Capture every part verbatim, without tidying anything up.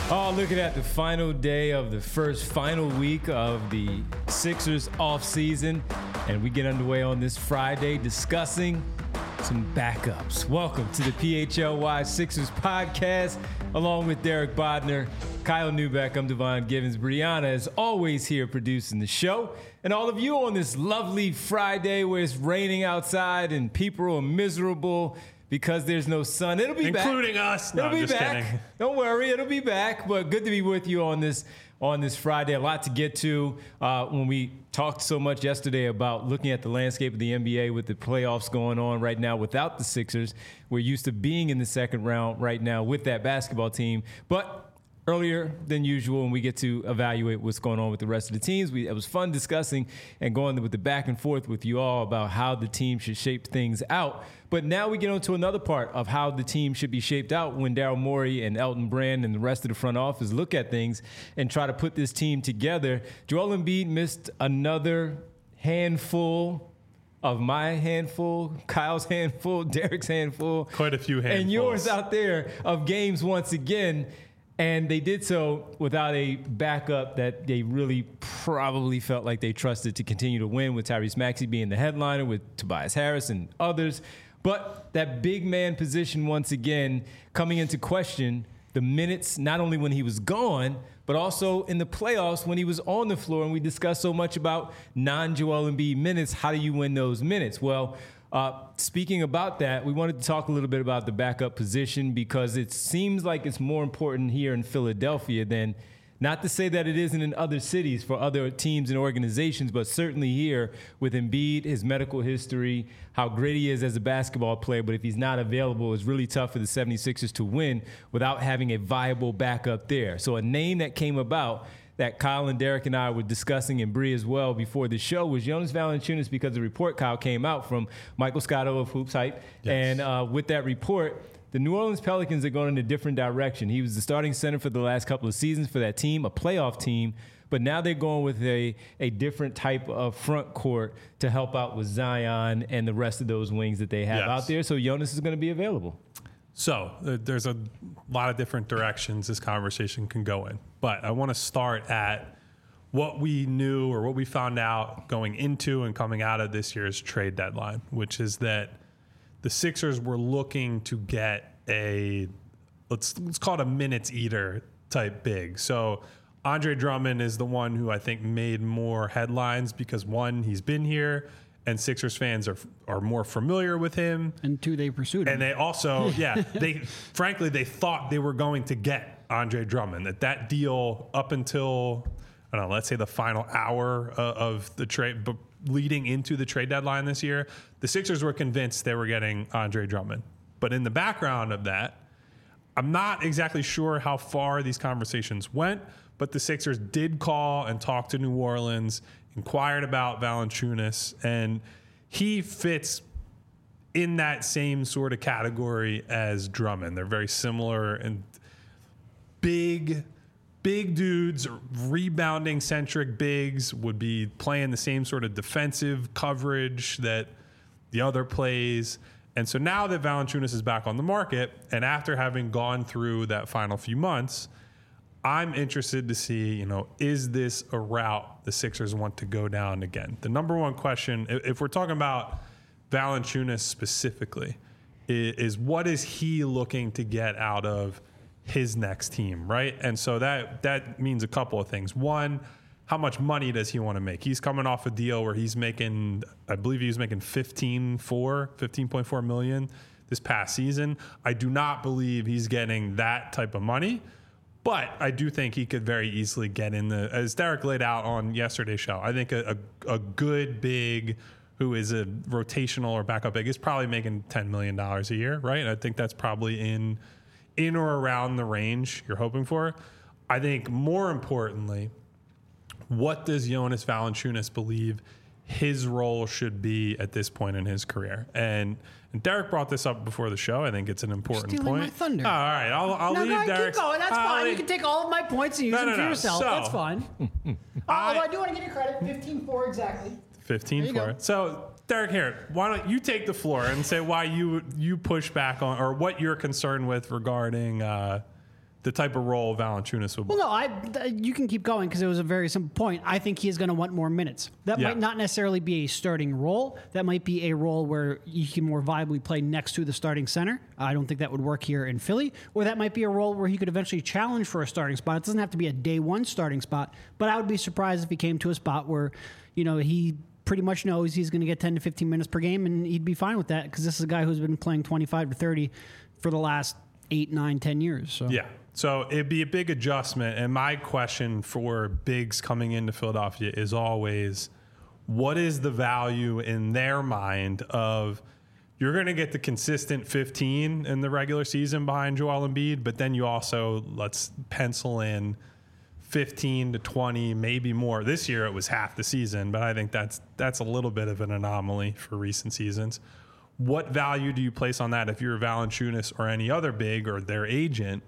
Oh, looking at the final day of the first final week of the Sixers off season, and we get underway on this Friday discussing some backups. Welcome to the P H L Y Sixers podcast, along with Derek Bodner, Kyle Newbeck. I'm Devon Givens. Brianna is always here producing the show, and all of you on this lovely Friday where it's raining outside and people are miserable because there's no sun. It'll be Including back. Including us. No, it'll be I'm just back. kidding. Don't worry, it'll be back. But good to be with you on this on this Friday. A lot to get to. Uh, when we talked so much yesterday about looking at the landscape of the N B A with the playoffs going on right now without the Sixers. We're used to being in the second round right now with that basketball team. But earlier than usual, and we get to evaluate what's going on with the rest of the teams. We, it was fun discussing and going with the back and forth with you all about how the team should shape things out. But now we get on to another part of how the team should be shaped out when Daryl Morey and Elton Brand and the rest of the front office look at things and try to put this team together. Joel Embiid missed another handful of my handful, Kyle's handful, Derek's handful. Quite a few handfuls. And yours out there of games once again. And they did so without a backup that they really probably felt like they trusted to continue to win, with Tyrese Maxey being the headliner, with Tobias Harris and others. But that big man position once again coming into question, the minutes, not only when he was gone, but also in the playoffs when he was on the floor. And we discussed so much about non-Joel Embiid minutes. How do you win those minutes? Well, Uh, speaking about that, we wanted to talk a little bit about the backup position because it seems like it's more important here in Philadelphia than, not to say that it isn't in other cities for other teams and organizations, but certainly here with Embiid, his medical history, how great he is as a basketball player. But if he's not available, it's really tough for the seventy-sixers to win without having a viable backup there. So a name that came about that Kyle and Derek and I were discussing, and Bree as well, before the show was Jonas Valanciunas, because the report, Kyle, came out from Michael Scotto of Hoops Hype. Yes. And uh, with that report, the New Orleans Pelicans are going in a different direction. He was the starting center for the last couple of seasons for that team, a playoff team. But now they're going with a, a different type of front court to help out with Zion and the rest of those wings that they have Yes. out there. So Jonas is going to be available. So uh, there's a lot of different directions this conversation can go in. But I want to start at what we knew or what we found out going into and coming out of this year's trade deadline, which is that the Sixers were looking to get a, let's, let's call it a minutes eater type big. So Andre Drummond is the one who I think made more headlines because, one, he's been here, and Sixers fans are are more familiar with him. And two, they pursued him. And they also, yeah, they frankly, they thought they were going to get Andre Drummond. That that deal up until, I don't know, let's say the final hour uh, of the trade, but leading into the trade deadline this year, the Sixers were convinced they were getting Andre Drummond. But in the background of that, I'm not exactly sure how far these conversations went, but the Sixers did call and talk to New Orleans, inquired about Valanciunas, and he fits in that same sort of category as Drummond. They're very similar and big, big dudes, rebounding centric bigs, would be playing the same sort of defensive coverage that the other plays. And so now that Valanciunas is back on the market, and after having gone through that final few months, I'm interested to see, you know, is this a route the Sixers want to go down again? The number one question, if we're talking about Valanciunas specifically, is what is he looking to get out of his next team, right? And so that that means a couple of things. One, how much money does he want to make? He's coming off a deal where he's making, I believe he was making fifteen point four, fifteen point four million this past season. I do not believe he's getting that type of money. But I do think he could very easily get in the, as Derek laid out on yesterday's show, I think a, a, a good big who is a rotational or backup big is probably making ten million dollars a year, right? And I think that's probably in in or around the range you're hoping for. I think more importantly, what does Jonas Valanciunas believe his role should be at this point in his career? And, and Derek brought this up before the show. I think it's an important Stealing point. my thunder. Oh, all right, I'll, I'll no, leave no, Derek. keep going. That's I'll fine. leave- You can take all of my points and use No, them no, for no. yourself. So- That's fine. I- Although I do want to give you credit. fifteen four exactly. fifteen There you for go. it. So, Derek, here, why don't you take the floor and say why you you push back on, or what you're concerned with regarding uh, the type of role Valanciunas would. Well, no, I th- you can keep going because it was a very simple point. I think he is going to want more minutes. That Yeah. might not necessarily be a starting role. That might be a role where you can more viably play next to the starting center. I don't think that would work here in Philly. Or that might be a role where he could eventually challenge for a starting spot. It doesn't have to be a day one starting spot, but I would be surprised if he came to a spot where, you know, he pretty much knows he's going to get ten to fifteen minutes per game, and he'd be fine with that because this is a guy who's been playing twenty-five to thirty for the last eight, nine, ten years. So. Yeah. So it'd be a big adjustment. And my question for bigs coming into Philadelphia is always, what is the value in their mind of you're going to get the consistent fifteen in the regular season behind Joel Embiid, but then you also, let's pencil in fifteen to twenty, maybe more. This year it was half the season, but I think that's that's a little bit of an anomaly for recent seasons. What value do you place on that if you're Valanciunas or any other big or their agent?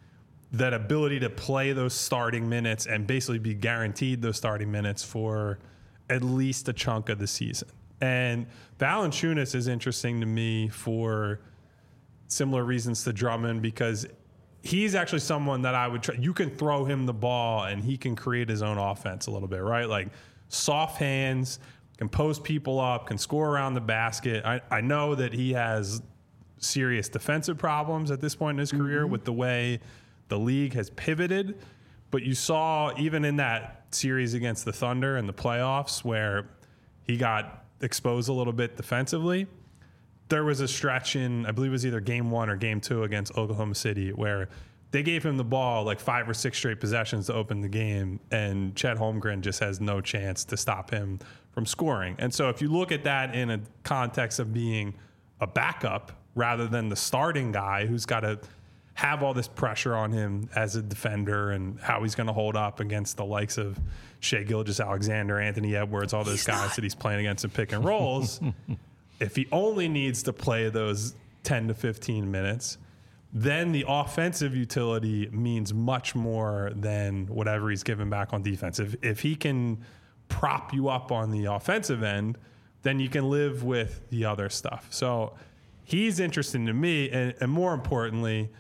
That ability to play those starting minutes and basically be guaranteed those starting minutes for at least a chunk of the season. And Valanciunas is interesting to me for similar reasons to Drummond because he's actually someone that I would try. You can throw him the ball and he can create his own offense a little bit, right? Like soft hands, can post people up, can score around the basket. I, I know that he has serious defensive problems at this point in his career mm-hmm. with the way the league has pivoted, but you saw even in that series against the Thunder in the playoffs where he got exposed a little bit defensively, there was a stretch in, I believe it was either game one or game two against Oklahoma City where they gave him the ball like five or six straight possessions to open the game, and Chet Holmgren just has no chance to stop him from scoring. And so if you look at that in a context of being a backup rather than the starting guy who's got to have all this pressure on him as a defender and how he's going to hold up against the likes of Shai Gilgeous-Alexander, Anthony Edwards, all those he's guys not. that he's playing against in pick and rolls. If he only needs to play those ten to fifteen minutes, then the offensive utility means much more than whatever he's given back on defense. If, if he can prop you up on the offensive end, then you can live with the other stuff. So he's interesting to me, and, and more importantly,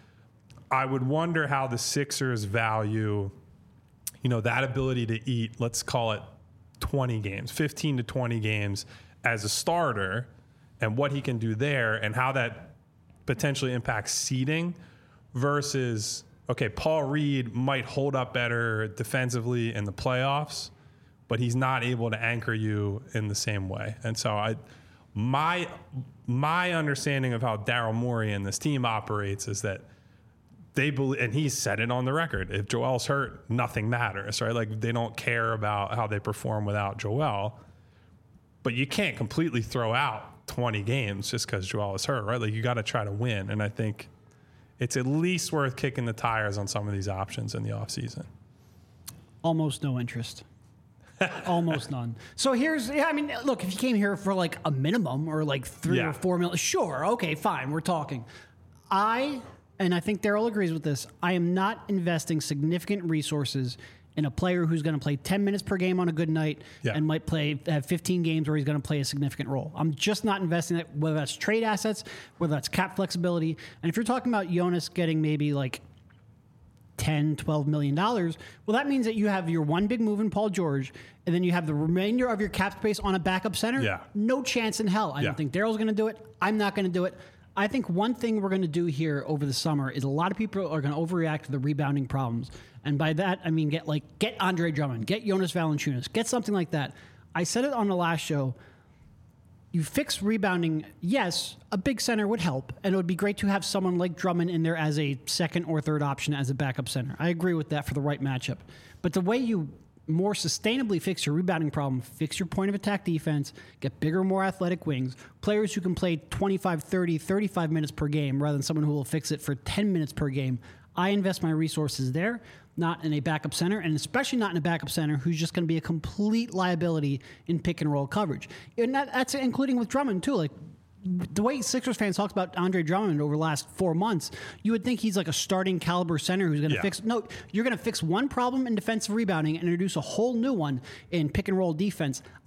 I would wonder how the Sixers value, you know, that ability to eat, let's call it twenty games, fifteen to twenty games as a starter, and what he can do there and how that potentially impacts seeding versus, okay, Paul Reed might hold up better defensively in the playoffs, but he's not able to anchor you in the same way. And so I, my, my understanding of how Daryl Morey and this team operates is that they believe, and he's said it on the record, if Joel's hurt, nothing matters, right? Like they don't care about how they perform without Joel, but you can't completely throw out twenty games just because Joel is hurt, right? Like you got to try to win. And I think it's at least worth kicking the tires on some of these options in the offseason. Almost no interest. Almost none. So here's, yeah, I mean, look, if you came here for like a minimum or like three Yeah. or four million, sure, okay, fine, we're talking. I, and I think Daryl agrees with this, I am not investing significant resources in a player who's going to play ten minutes per game on a good night Yeah. and might play have fifteen games where he's going to play a significant role. I'm just not investing in it, whether that's trade assets, whether that's cap flexibility. And if you're talking about Jonas getting maybe like ten, twelve million dollars, well, that means that you have your one big move in Paul George, and then you have the remainder of your cap space on a backup center. Yeah. No chance in hell. I Yeah. don't think Daryl's going to do it. I'm not going to do it. I think one thing we're going to do here over the summer is a lot of people are going to overreact to the rebounding problems. And by that, I mean, get like, get Andre Drummond, get Jonas Valanciunas, get something like that. I said it on the last show. You fix rebounding, yes, a big center would help, and it would be great to have someone like Drummond in there as a second or third option as a backup center. I agree with that for the right matchup. But the way you more sustainably fix your rebounding problem, fix your point of attack defense, get bigger, more athletic wings, players who can play twenty-five, thirty, thirty-five minutes per game rather than someone who will fix it for ten minutes per game. I invest my resources there, not in a backup center, and especially not in a backup center who's just going to be a complete liability in pick and roll coverage. And that, that's including with Drummond too. Like the way Sixers fans talked about Andre Drummond over the last four months, you would think he's like a starting caliber center who's going to Yeah. fix. No, you're going to fix one problem in defensive rebounding and introduce a whole new one in pick and roll defense.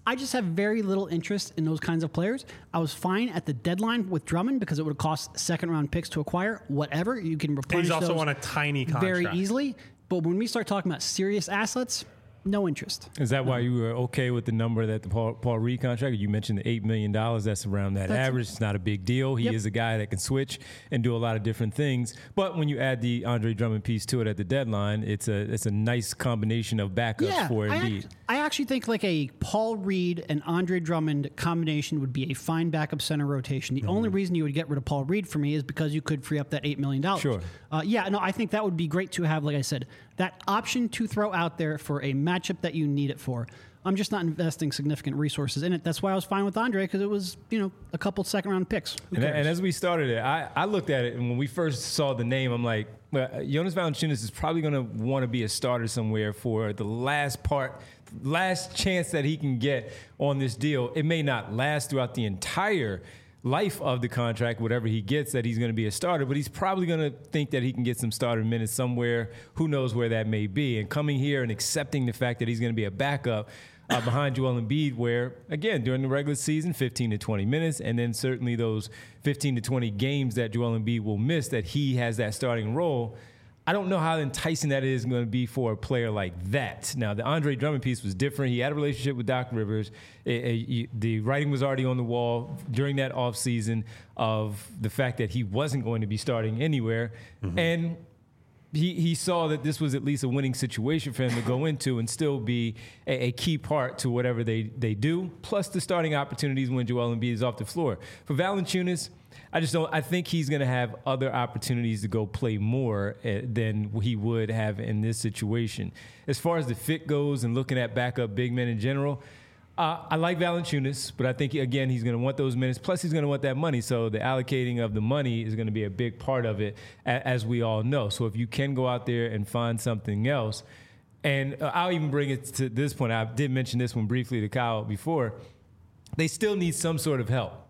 I just have very little interest in those kinds of players. I was fine at the deadline with Drummond because it would cost second round picks to acquire. Whatever, you can replenish He's also those on a tiny contract. very easily. But when we start talking about serious assets, no interest. Is that why you were okay with the number that the Paul, Paul Reed contract? You mentioned the eight million dollars. That's around that That's- average. It's not a big deal. He Yep. is a guy that can switch and do a lot of different things. But when you add the Andre Drummond piece to it at the deadline, it's a it's a nice combination of backups Yeah, for I, Embiid. act- I actually think like a Paul Reed and Andre Drummond combination would be a fine backup center rotation. The only reason you would get rid of Paul Reed for me is because you could free up that eight million dollars. Sure. Uh, yeah, no, I think that would be great to have, like I said, that option to throw out there for a matchup that you need it for. I'm just not investing significant resources in it. That's why I was fine with Andre, because it was, you know, a couple second round picks. Who And, cares? and as we started it, I, I looked at it, and when we first saw the name, I'm like, well, Jonas Valanciunas is probably going to want to be a starter somewhere for the last part, last chance that he can get on this deal. It may not last throughout the entire life of the contract, whatever he gets, that he's going to be a starter, but he's probably going to think that he can get some starter minutes somewhere. Who knows where that may be? And coming here and accepting the fact that he's going to be a backup uh, behind Joel Embiid, where, again, during the regular season, fifteen to twenty minutes, and then certainly those fifteen to twenty games that Joel Embiid will miss, that he has that starting role. I don't know how enticing that is going to be for a player like that. Now, the Andre Drummond piece was different. He had a relationship with Doc Rivers. It, it, the writing was already on the wall during that offseason of the fact that he wasn't going to be starting anywhere. Mm-hmm. And he, he saw that this was at least a winning situation for him to go into and still be a, a key part to whatever they, they do, plus the starting opportunities when Joel Embiid is off the floor. For Valanciunas, I just don't. I think he's going to have other opportunities to go play more uh, than he would have in this situation. As far as the fit goes and looking at backup big men in general, uh, I like Valanciunas, but I think again he's going to want those minutes. Plus, he's going to want that money. So the allocating of the money is going to be a big part of it, a- as we all know. So if you can go out there and find something else, and uh, I'll even bring it to this point. I did mention this one briefly to Kyle before. They still need some sort of help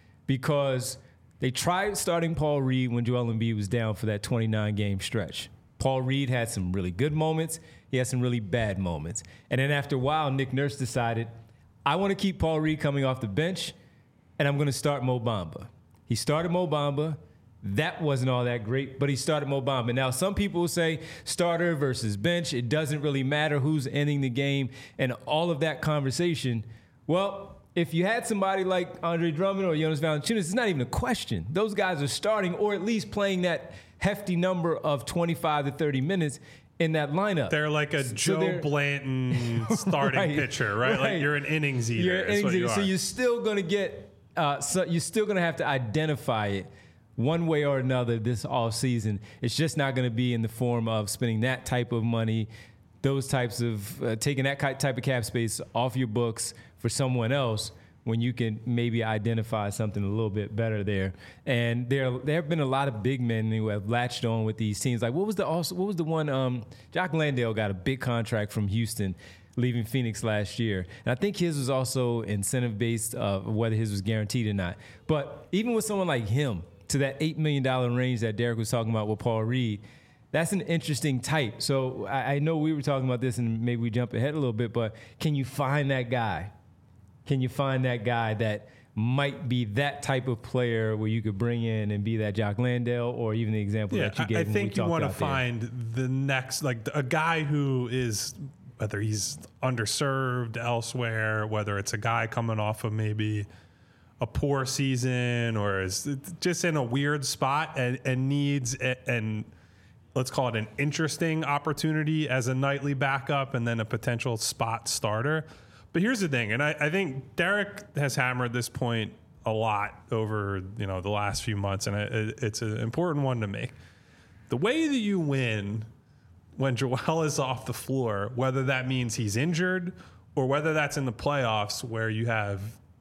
because they tried starting Paul Reed when Joel Embiid was down for that twenty-nine game stretch. Paul Reed had some really good moments. He had some really bad moments. And then after a while, Nick Nurse decided, I want to keep Paul Reed coming off the bench, and I'm going to start Mo Bamba. He started Mo Bamba. That wasn't all that great, but he started Mo Bamba. Now, some people will say starter versus bench. It doesn't really matter who's ending the game and all of that conversation. Well, if you had somebody like Andre Drummond or Jonas Valanciunas, it's not even a question. Those guys are starting or at least playing that hefty number of twenty-five to thirty minutes in that lineup. They're like a So Joe they're- Blanton starting Right, pitcher, right? right. Like you're an innings eater. You're is innings what you eater. So are. you're still going to get, uh, so you're still going to have to identify it one way or another this all season. It's just not going to be in the form of spending that type of money, those types of, uh, taking that ki- type of cap space off your books for someone else, when you can maybe identify something a little bit better there. And there there have been a lot of big men who have latched on with these teams. Like what was the also what was the one um, Jock Landale got a big contract from Houston leaving Phoenix last year. And I think his was also incentive based, uh, whether his was guaranteed or not. But even with someone like him, to that eight million dollars range that Derek was talking about with Paul Reed, that's an interesting type. So I, I know we were talking about this and maybe we jump ahead a little bit, but can you find that guy? Can you find that guy that might be that type of player where you could bring in and be that Jock Landale, or even the example yeah, that you gave? I, I when think we you want to talked out there? find the next, like a guy who is, whether he's underserved elsewhere, whether it's a guy coming off of maybe a poor season or is just in a weird spot and, and needs a, and let's call it an interesting opportunity as a nightly backup and then a potential spot starter. But here's the thing, and I, I think Derek has hammered this point a lot over you know the last few months, and it, it's an important one to make. The way that you win when Joel is off the floor, whether that means he's injured or whether that's in the playoffs where you have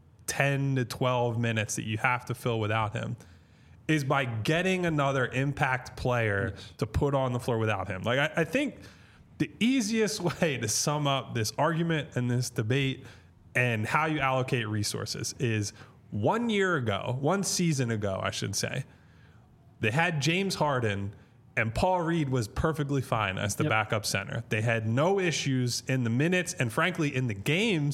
ten to twelve minutes that you have to fill without him, is by getting another impact player yes. to put on the floor without him. Like I, I think the easiest way to sum up this argument and this debate and how you allocate resources is one year ago, one season ago, I should say, they had James Harden and Paul Reed was perfectly fine as the yep. backup center. They had no issues in the minutes and frankly in the games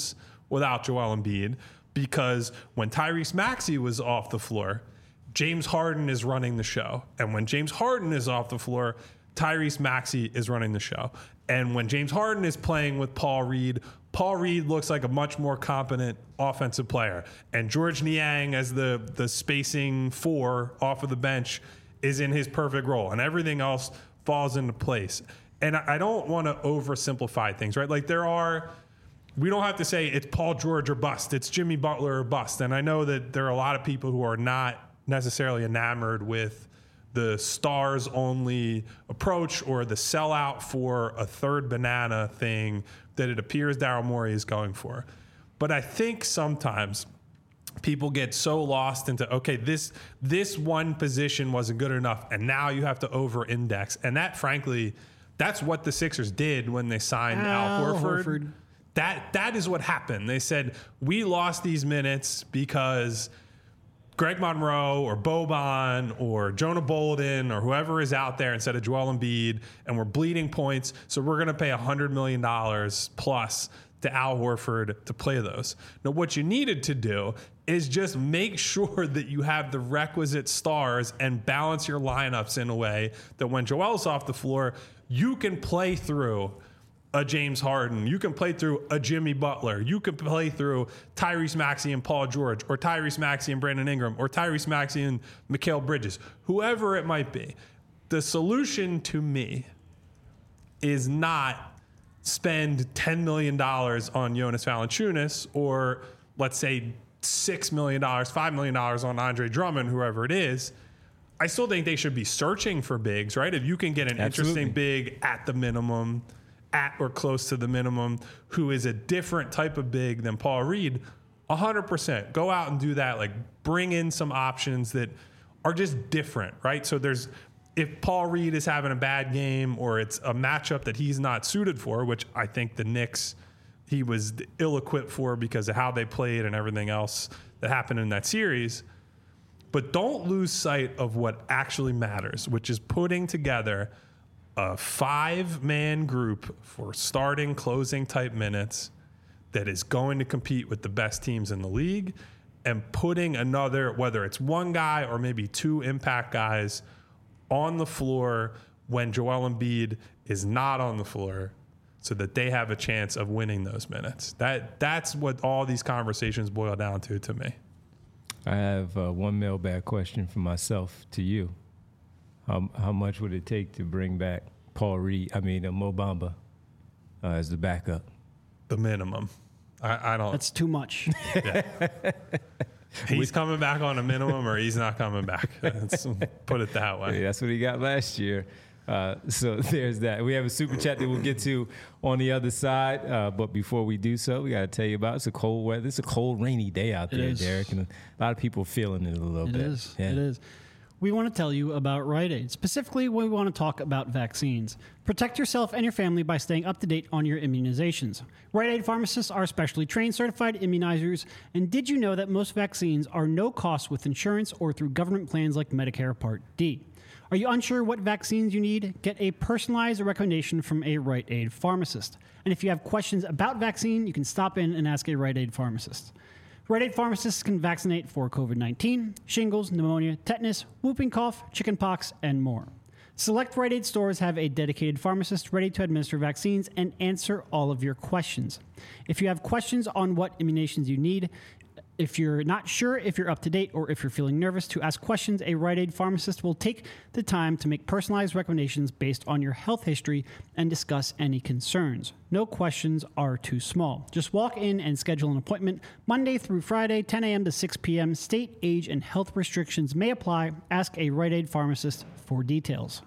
without Joel Embiid, because when Tyrese Maxey was off the floor, James Harden is running the show. And when James Harden is off the floor, Tyrese Maxey is running the show. And when James Harden is playing with Paul Reed, Paul Reed looks like a much more competent offensive player. And George Niang, as the, the spacing four off of the bench, is in his perfect role. And everything else falls into place. And I don't want to oversimplify things, right? Like there are, we don't have to say it's Paul George or bust. It's Jimmy Butler or bust. And I know that there are a lot of people who are not necessarily enamored with the stars only approach or the sellout for a third banana thing that it appears Daryl Morey is going for. But I think sometimes people get so lost into, okay, this this one position wasn't good enough, and now you have to over-index. And that, frankly, that's what the Sixers did when they signed Al, Al Horford. Horford. That that is what happened. They said, we lost these minutes because Greg Monroe or Boban or Jonah Bolden or whoever is out there instead of Joel Embiid, and we're bleeding points, so we're going to pay one hundred million dollars plus to Al Horford to play those. Now, what you needed to do is just make sure that you have the requisite stars and balance your lineups in a way that when Joel's off the floor, you can play through a James Harden, you can play through a Jimmy Butler, you can play through Tyrese Maxey and Paul George, or Tyrese Maxey and Brandon Ingram, or Tyrese Maxey and Mikal Bridges, whoever it might be. The solution to me is not spend ten million dollars on Jonas Valanciunas, or let's say six million dollars, five million dollars on Andre Drummond, whoever it is. I still think they should be searching for bigs, right? If you can get an Absolutely. interesting big at the minimum, at or close to the minimum, who is a different type of big than Paul Reed, one hundred percent. Go out and do that. Like, bring in some options that are just different, right? So there's, if Paul Reed is having a bad game or it's a matchup that he's not suited for, which I think the Knicks, he was ill-equipped for because of how they played and everything else that happened in that series. But don't lose sight of what actually matters, which is putting together a five-man group for starting, closing type minutes that is going to compete with the best teams in the league, and putting another, whether it's one guy or maybe two impact guys, on the floor when Joel Embiid is not on the floor, so that they have a chance of winning those minutes. That that's what all these conversations boil down to to me. I have uh, one mailbag question for myself to you. How, how much would it take to bring back Paul Reed, I mean, uh, Mo Bamba uh, as the backup? The minimum. I, I don't. That's too much. Yeah. He's coming back on a minimum, or he's not coming back. Let's put it that way. Yeah, that's what he got last year. Uh, so there's that. We have a super chat that we'll get to on the other side. Uh, but before we do so, we got to tell you about it's a cold weather. It's a cold, rainy day out there, Derek, and a lot of people feeling it a little it bit. It is. Yeah. It is. We want to tell you about Rite Aid. Specifically, we want to talk about vaccines. Protect yourself and your family by staying up to date on your immunizations. Rite Aid pharmacists are specially trained, certified immunizers. And did you know that most vaccines are no cost with insurance or through government plans like Medicare Part D? Are you unsure what vaccines you need? Get a personalized recommendation from a Rite Aid pharmacist. And if you have questions about vaccine, you can stop in and ask a Rite Aid pharmacist. Rite Aid pharmacists can vaccinate for covid nineteen, shingles, pneumonia, tetanus, whooping cough, chickenpox, and more. Select Rite Aid stores have a dedicated pharmacist ready to administer vaccines and answer all of your questions. If you have questions on what immunizations you need, if you're not sure if you're up to date, or if you're feeling nervous to ask questions, a Rite Aid pharmacist will take the time to make personalized recommendations based on your health history and discuss any concerns. No questions are too small. Just walk in and schedule an appointment Monday through Friday, ten a.m. to six p.m. State, age, and health restrictions may apply. Ask a Rite Aid pharmacist for details.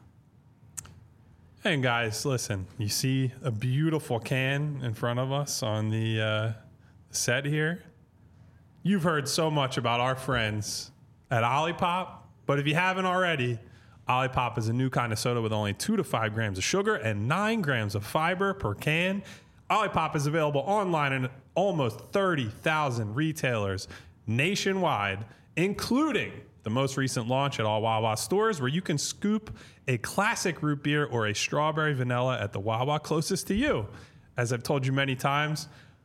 And guys, listen, you see a beautiful can in front of us on the uh, set here. You've heard so much about our friends at Olipop, but if you haven't already, Olipop is a new kind of soda with only two to five grams of sugar and nine grams of fiber per can. Olipop is available online in almost thirty thousand retailers nationwide, including the most recent launch at all Wawa stores, where you can scoop a classic root beer or a strawberry vanilla at the Wawa closest to you. As I've told you many times,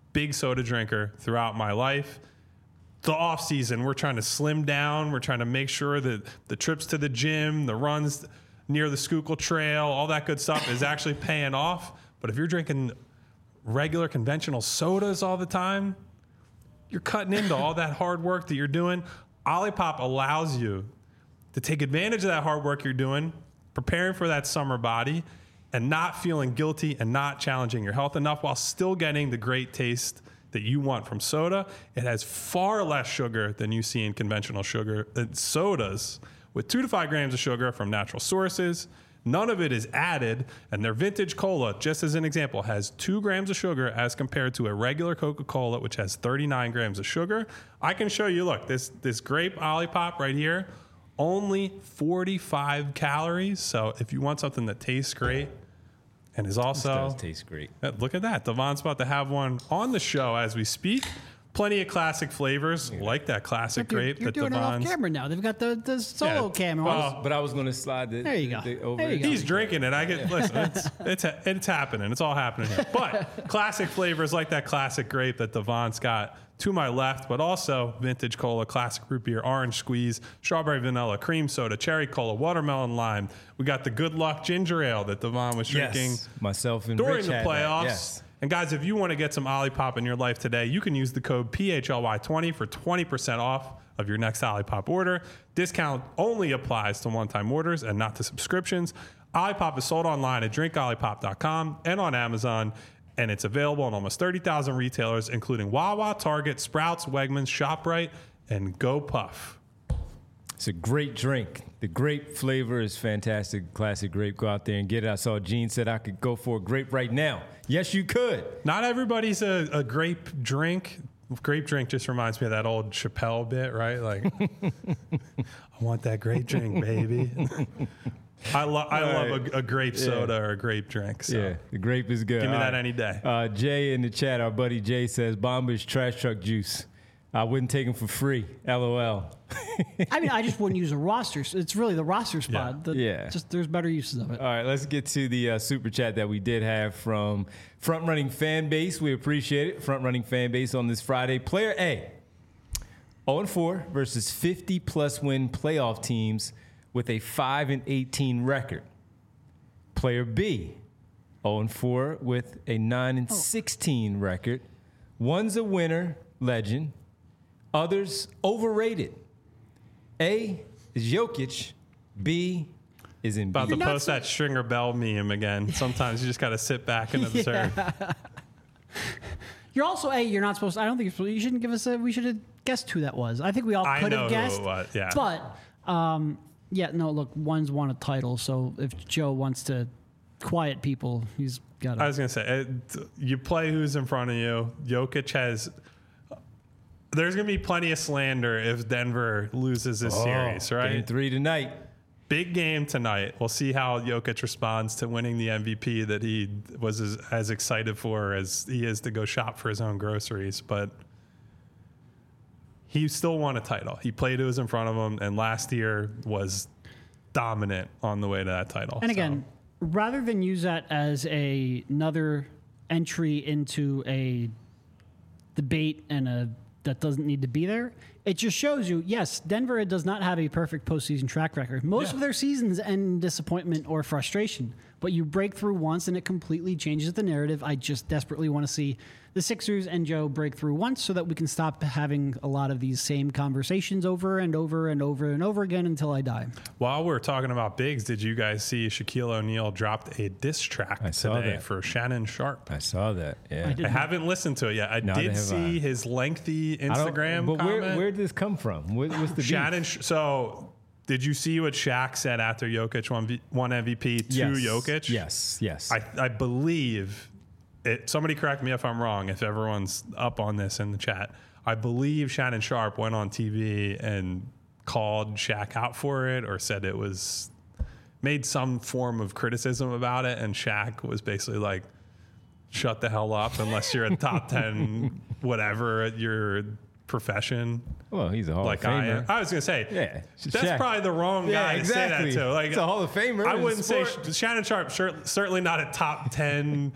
big soda drinker throughout my life. The off season, we're trying to slim down. We're trying to make sure that the trips to the gym, the runs near the Schuylkill Trail, all that good stuff is actually paying off. But if you're drinking regular conventional sodas all the time, you're cutting into all that hard work that you're doing. Olipop allows you to take advantage of that hard work you're doing, preparing for that summer body, and not feeling guilty and not challenging your health enough while still getting the great taste that you want from soda. It has far less sugar than you see in conventional sugar uh, sodas, with two to five grams of sugar from natural sources. None of it is added, and their vintage cola, just as an example, has two grams of sugar as compared to a regular Coca-Cola, which has thirty-nine grams of sugar. I can show you, look, this, this grape Olipop right here, only forty-five calories. So if you want something that tastes great and is also... This does taste great. Uh, Look at that. Devon's about to have one on the show as we speak. Plenty of classic flavors, yeah. like that classic You're, grape you're that doing Devon's... it off camera now. They've got the, the solo Yeah. camera. Well, But I was going to slide the, There you go. the, the over. There you go. He's drinking it. I get listen. It's it's it's happening. It's all happening here. But classic flavors like that classic grape that Devon's got to my left, but also vintage cola, classic root beer, orange squeeze, strawberry vanilla, cream soda, cherry cola, watermelon lime. We got the Good Luck ginger ale that Devon was drinking Yes. Myself and during Rich the had that. playoffs. Yes. And guys, if you want to get some Olipop in your life today, you can use the code P H L Y twenty for twenty percent off of your next Olipop order. Discount only applies to one-time orders and not to subscriptions. Olipop is sold online at drink olipop dot com and on Amazon, and it's available in almost thirty thousand retailers, including Wawa, Target, Sprouts, Wegmans, ShopRite, and GoPuff. It's a great drink. The grape flavor is fantastic. Classic grape. Go out there and get it. I saw Gene said I could go for a grape right now. Yes, you could. Not everybody's a, a grape drink. Grape drink just reminds me of that old Chappelle bit, right? Like, I want that grape drink, baby. I, lo- I All love right. a, a grape Yeah. soda or a grape drink. So. Yeah, the grape is good. Give me All that right. any day. Uh, Jay in the chat, our buddy Jay says, Bomba is trash truck juice. I wouldn't take him for free. L O L. I mean, I just wouldn't use a roster. It's really the roster spot. Yeah. The, Yeah. Just there's better uses of it. All right, let's get to the uh, super chat that we did have from Front Running Fan Base. We appreciate it. Front Running Fan Base on this Friday. Player A, oh and four versus fifty plus win playoff teams with a five and eighteen record. Player B, oh and four with a nine and sixteen record. One's a winner, legend. Others overrated. A is Jokic. B is Embiid. About to not post so- that Stringer Bell meme again. Sometimes you just got to sit back and observe. You're also a. You're not supposed. To, I don't think you're supposed. You shouldn't give us a. We should have guessed who that was. I think we all I could know have who it guessed. was, yeah. But um, yeah, no. Look, one's won a title, so if Joe wants to quiet people, he's got. I to. was going to say, it, you play who's in front of you. Jokic has... There's going to be plenty of slander if Denver loses this Oh, series, right? Game three tonight. Big game tonight. We'll see how Jokic responds to winning the M V P that he was as, as excited for as he is to go shop for his own groceries. But he still won a title. He played who was in front of him, and last year was dominant on the way to that title. And So, again, rather than use that as a, another entry into a debate and a that doesn't need to be there, it just shows you, yes, Denver does not have a perfect postseason track record. Most Yeah. of their seasons end in disappointment or frustration, but you break through once and it completely changes the narrative. I just desperately want to see the Sixers and Joe break through once so that we can stop having a lot of these same conversations over and over and over and over again until I die. while we're talking about bigs, did you guys see Shaquille O'Neal dropped a diss track I saw today that. for Shannon Sharp? I saw that. Yeah. did. I haven't listened to it yet. I Neither did have see I. his lengthy I don't- Instagram But where, comment. where did this come from? What, what's the beef? Shannon, Sh- so did you see what Shaq said after Jokic won, v- won M V P to Yes. Jokic? Yes, yes. I, I believe, it, somebody correct me if I'm wrong, if everyone's up on this in the chat. I believe Shannon Sharp went on T V and called Shaq out for it or said it was, made some form of criticism about it. And Shaq was basically like, shut the hell up unless you're a top ten whatever at your profession. well, he's a Hall Like of I, Famer. I was gonna say, Yeah, that's Shaq. probably the wrong guy Yeah, to exactly. say that to. Like, It's a Hall of Famer I in wouldn't say sport. Sh- Shannon Sharp. Sure, certainly not a top ten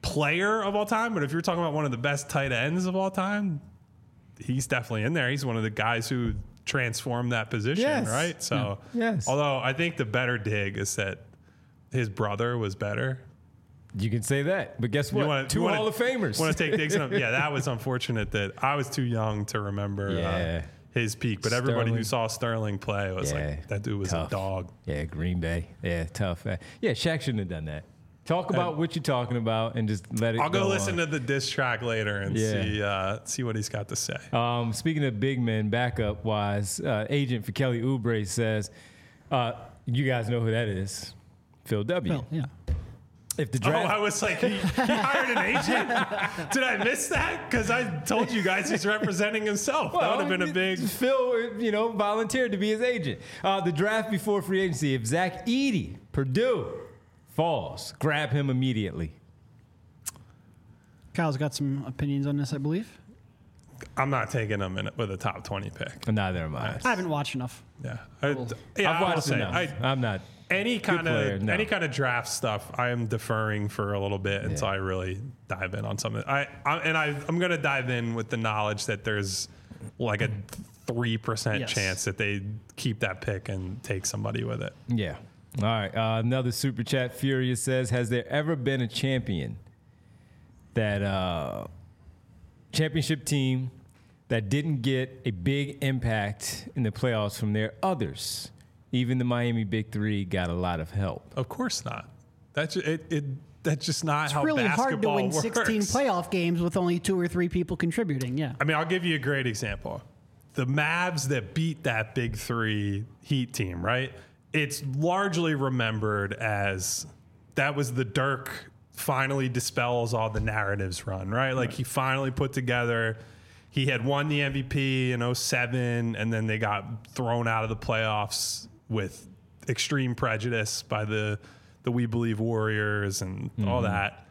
player of all time, but if you're talking about one of the best tight ends of all time, he's definitely in there. He's one of the guys who transformed that position, Yes. right? So, Yeah. Yes. although I think the better dig is that his brother was better. You can say that, but guess what? wanna- Two wanna- Hall of Famers. Want to take digs in him? Yeah, that was unfortunate that I was too young to remember Yeah. uh, his peak. But everybody who Sterling. saw Sterling play was Yeah. like, that dude was Tough. a dog. Yeah, Green Bay. Yeah, tough. Uh, Yeah, Shaq shouldn't have done that. Talk about what you're talking about and just let it I'll go, go listen on. to the diss track later and Yeah. see uh, see what he's got to say. Um, speaking of big men, backup wise, uh, agent for Kelly Oubre says, uh, you guys know who that is. Phil W. Well, yeah. If the Oh, draft, I was like, he, he hired an agent? Did I miss that? Because I told you guys he's representing himself. that would have been a big. Phil, you know, volunteered to be his agent. Uh, the draft before free agency. If Zach Edey, Purdue, falls, grab him immediately. Kyle's got some opinions on this, I believe. I'm not taking him in with a top twenty pick. Neither am I. I haven't watched enough. Yeah. I, yeah, I've I will watched say, enough. I, I'm not. any kind player, of no. any kind of draft stuff, I am deferring for a little bit until I really dive in on something. I, I and I I'm going to dive in with the knowledge that there's like a three percent Yes. chance that they keep that pick and take somebody with it. Yeah. All right. Uh, another super chat. Furious says, has there ever been a champion that uh, championship team that didn't get a big impact in the playoffs from their others? Even the Miami Big Three got a lot of help. Of course not. That's it. it that's just not It's how really hard to basketball win works. sixteen playoff games with only two or three people contributing. Yeah. I mean, I'll give you a great example. The Mavs that beat that Big Three Heat team, right? It's largely remembered as that was the Dirk finally dispels all the narratives run, right? Like he finally put together, he had won the M V P in oh seven, and then they got thrown out of the playoffs with extreme prejudice by the the We Believe Warriors and all that.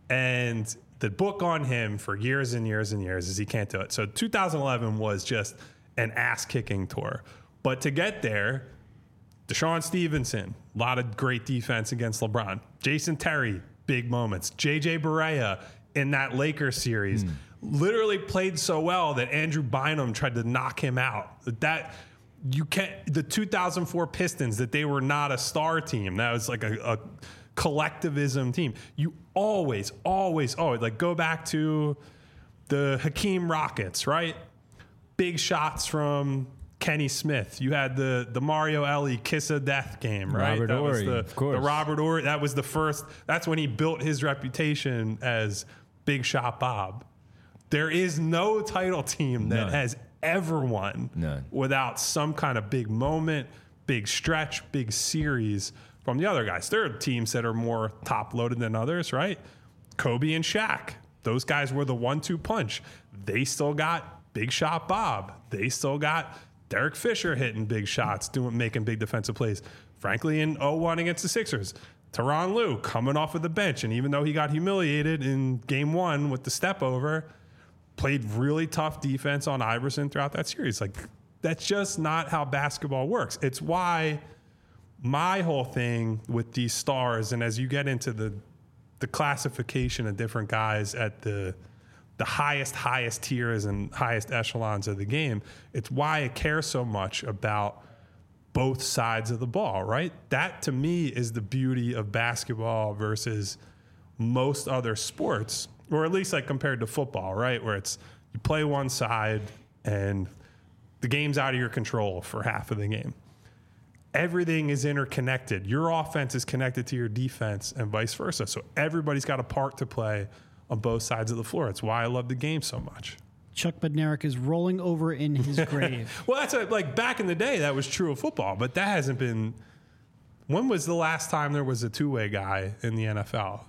And the book on him for years and years and years is he can't do it. So two thousand eleven was just an ass-kicking tour. But to get there, Deshaun Stevenson, a lot of great defense against LeBron. Jason Terry, big moments. J J Barea in that Lakers series literally played so well that Andrew Bynum tried to knock him out. That you can't. The two thousand four Pistons, that they were not a star team. That was like a, a collectivism team. You always, always, always like go back to the Hakeem Rockets, right? Big shots from Kenny Smith. You had the the Mario Elie kiss of death game, right? Robert that was Horry, the, of course. the Robert Horry. That was the first. That's when he built his reputation as Big Shot Bob. There is no title team that None. has ever won None. without some kind of big moment, big stretch, big series from the other guys. There are teams that are more top loaded than others, right? Kobe and Shaq. Those guys were the one two punch. They still got Big Shot Bob. They still got Derek Fisher hitting big shots, doing making big defensive plays. Frankly, in oh one against the Sixers, Tyronn Lue coming off of the bench, and even though he got humiliated in game one with the step over, played really tough defense on Iverson throughout that series. Like, that's just not how basketball works. It's why my whole thing with these stars, and as you get into the the classification of different guys at the the highest, highest tiers and highest echelons of the game, it's why I care so much about both sides of the ball, right? That to me is the beauty of basketball versus most other sports, or at least like compared to football, right? Where it's you play one side and the game's out of your control for half of the game. Everything is interconnected. Your offense is connected to your defense and vice versa. So everybody's got a part to play on both sides of the floor. It's why I love the game so much. Chuck Bednarik is rolling over in his grave. Well, that's a, like back in the day, that was true of football, but that hasn't been. When was the last time there was a two-way guy in the N F L?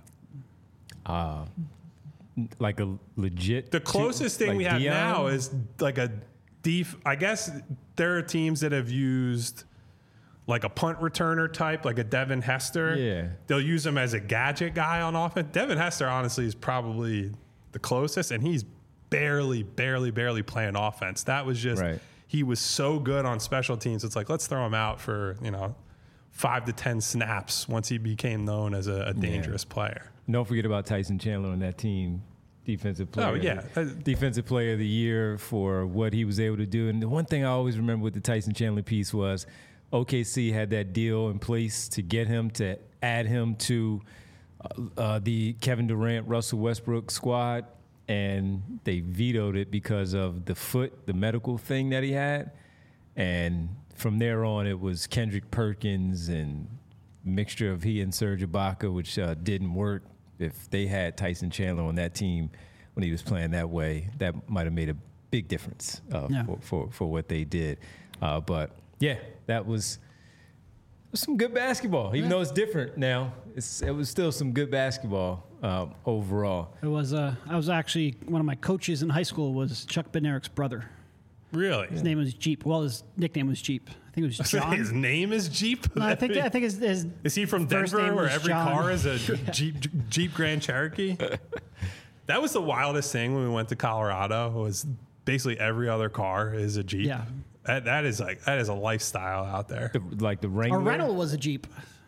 Uh, like a legit. The closest two- thing like we have Dion? now is like a def. I guess there are teams that have used like a punt returner type, like a Devin Hester. Yeah. They'll use him as a gadget guy on offense. Devin Hester, honestly, is probably the closest, and he's barely, barely, barely playing offense. That was just, Right. he was so good on special teams. It's like, let's throw him out for, you know, five to ten snaps once he became known as a, a dangerous player. Don't forget about Tyson Chandler on that team. Defensive player. Oh, yeah. Defensive player of the year for what he was able to do. And the one thing I always remember with the Tyson Chandler piece was O K C had that deal in place to get him, to add him to uh, uh, the Kevin Durant, Russell Westbrook squad. And they vetoed it because of the foot, the medical thing that he had. And from there on, it was Kendrick Perkins and mixture of he and Serge Ibaka, which uh, didn't work. If they had Tyson Chandler on that team when he was playing that way, that might have made a big difference uh, yeah. for, for, for what they did. Uh, but, yeah, that was, was some good basketball. Even yeah. though it's different now, it's, it was still some good basketball uh, overall. It was. Uh, I was actually, one of my coaches in high school was Chuck Bednarik's brother. Really? His yeah. name was Jeep. Well, his nickname was Jeep. I think it was John. His name is Jeep? No, I think I think his, his Is he from Denver where every John. car is a yeah. Jeep Jeep Grand Cherokee? That was the wildest thing when we went to Colorado, was basically every other car is a Jeep. Yeah. That, that is like that is a lifestyle out there. The, like the Wrangler? Our rental was a Jeep.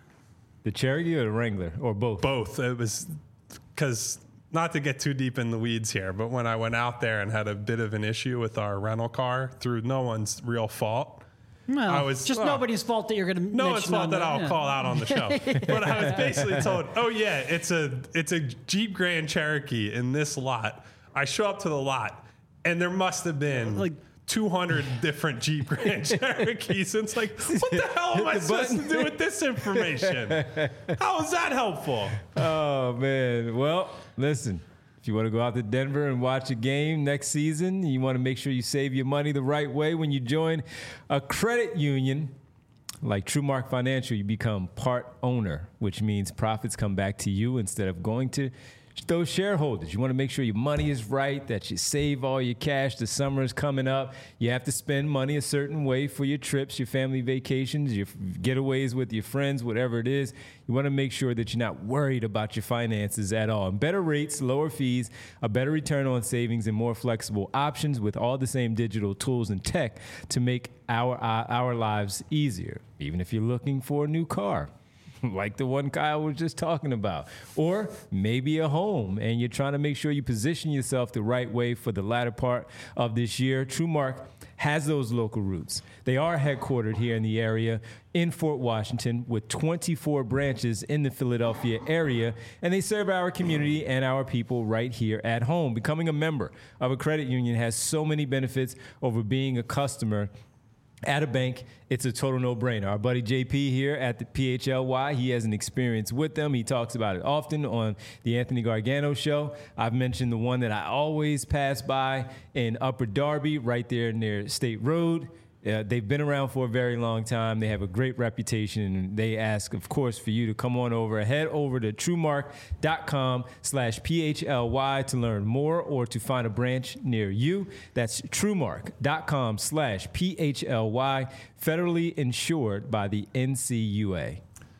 The Cherokee or the Wrangler? Or both? Both. It was because, not to get too deep in the weeds here, but when I went out there and had a bit of an issue with our rental car through no one's real fault. Well, I was just well, nobody's fault that you're going to no one's fault that the, I'll yeah. call out on the show. But I was basically told, oh yeah, it's a it's a Jeep Grand Cherokee in this lot. I show up to the lot, and there must have been like two hundred different Jeep Grand Cherokees. And it's like, what the hell am I supposed to do with this information? How is that helpful? Oh man, well, listen. If you want to go out to Denver and watch a game next season, you want to make sure you save your money the right way. When you join a credit union like TrueMark Financial, you become part owner, which means profits come back to you instead of going to those shareholders. You want to make sure your money is right, that you save all your cash. The summer is coming up. You have to spend money a certain way for your trips, your family vacations, your getaways with your friends, whatever it is. You want to make sure that you're not worried about your finances at all. And better rates, lower fees, a better return on savings, and more flexible options with all the same digital tools and tech to make our, our, our lives easier, even if you're looking for a new car. Like the one Kyle was just talking about. Or maybe a home, and you're trying to make sure you position yourself the right way for the latter part of this year. TrueMark has those local roots. They are headquartered here in the area in Fort Washington with twenty-four branches in the Philadelphia area, and they serve our community and our people right here at home. Becoming a member of a credit union has so many benefits over being a customer at a bank. It's a total no-brainer. Our buddy J P here at the P H L Y, he has an experience with them. He talks about it often on the Anthony Gargano Show. I've mentioned the one that I always pass by in Upper Darby, right there near State Road. Uh, they've been around for a very long time. They have a great reputation, and they ask, of course, for you to come on over. Head over to TrueMark.com slash P-H-L-Y to learn more or to find a branch near you. That's TrueMark.com slash P-H-L-Y, federally insured by the N C U A.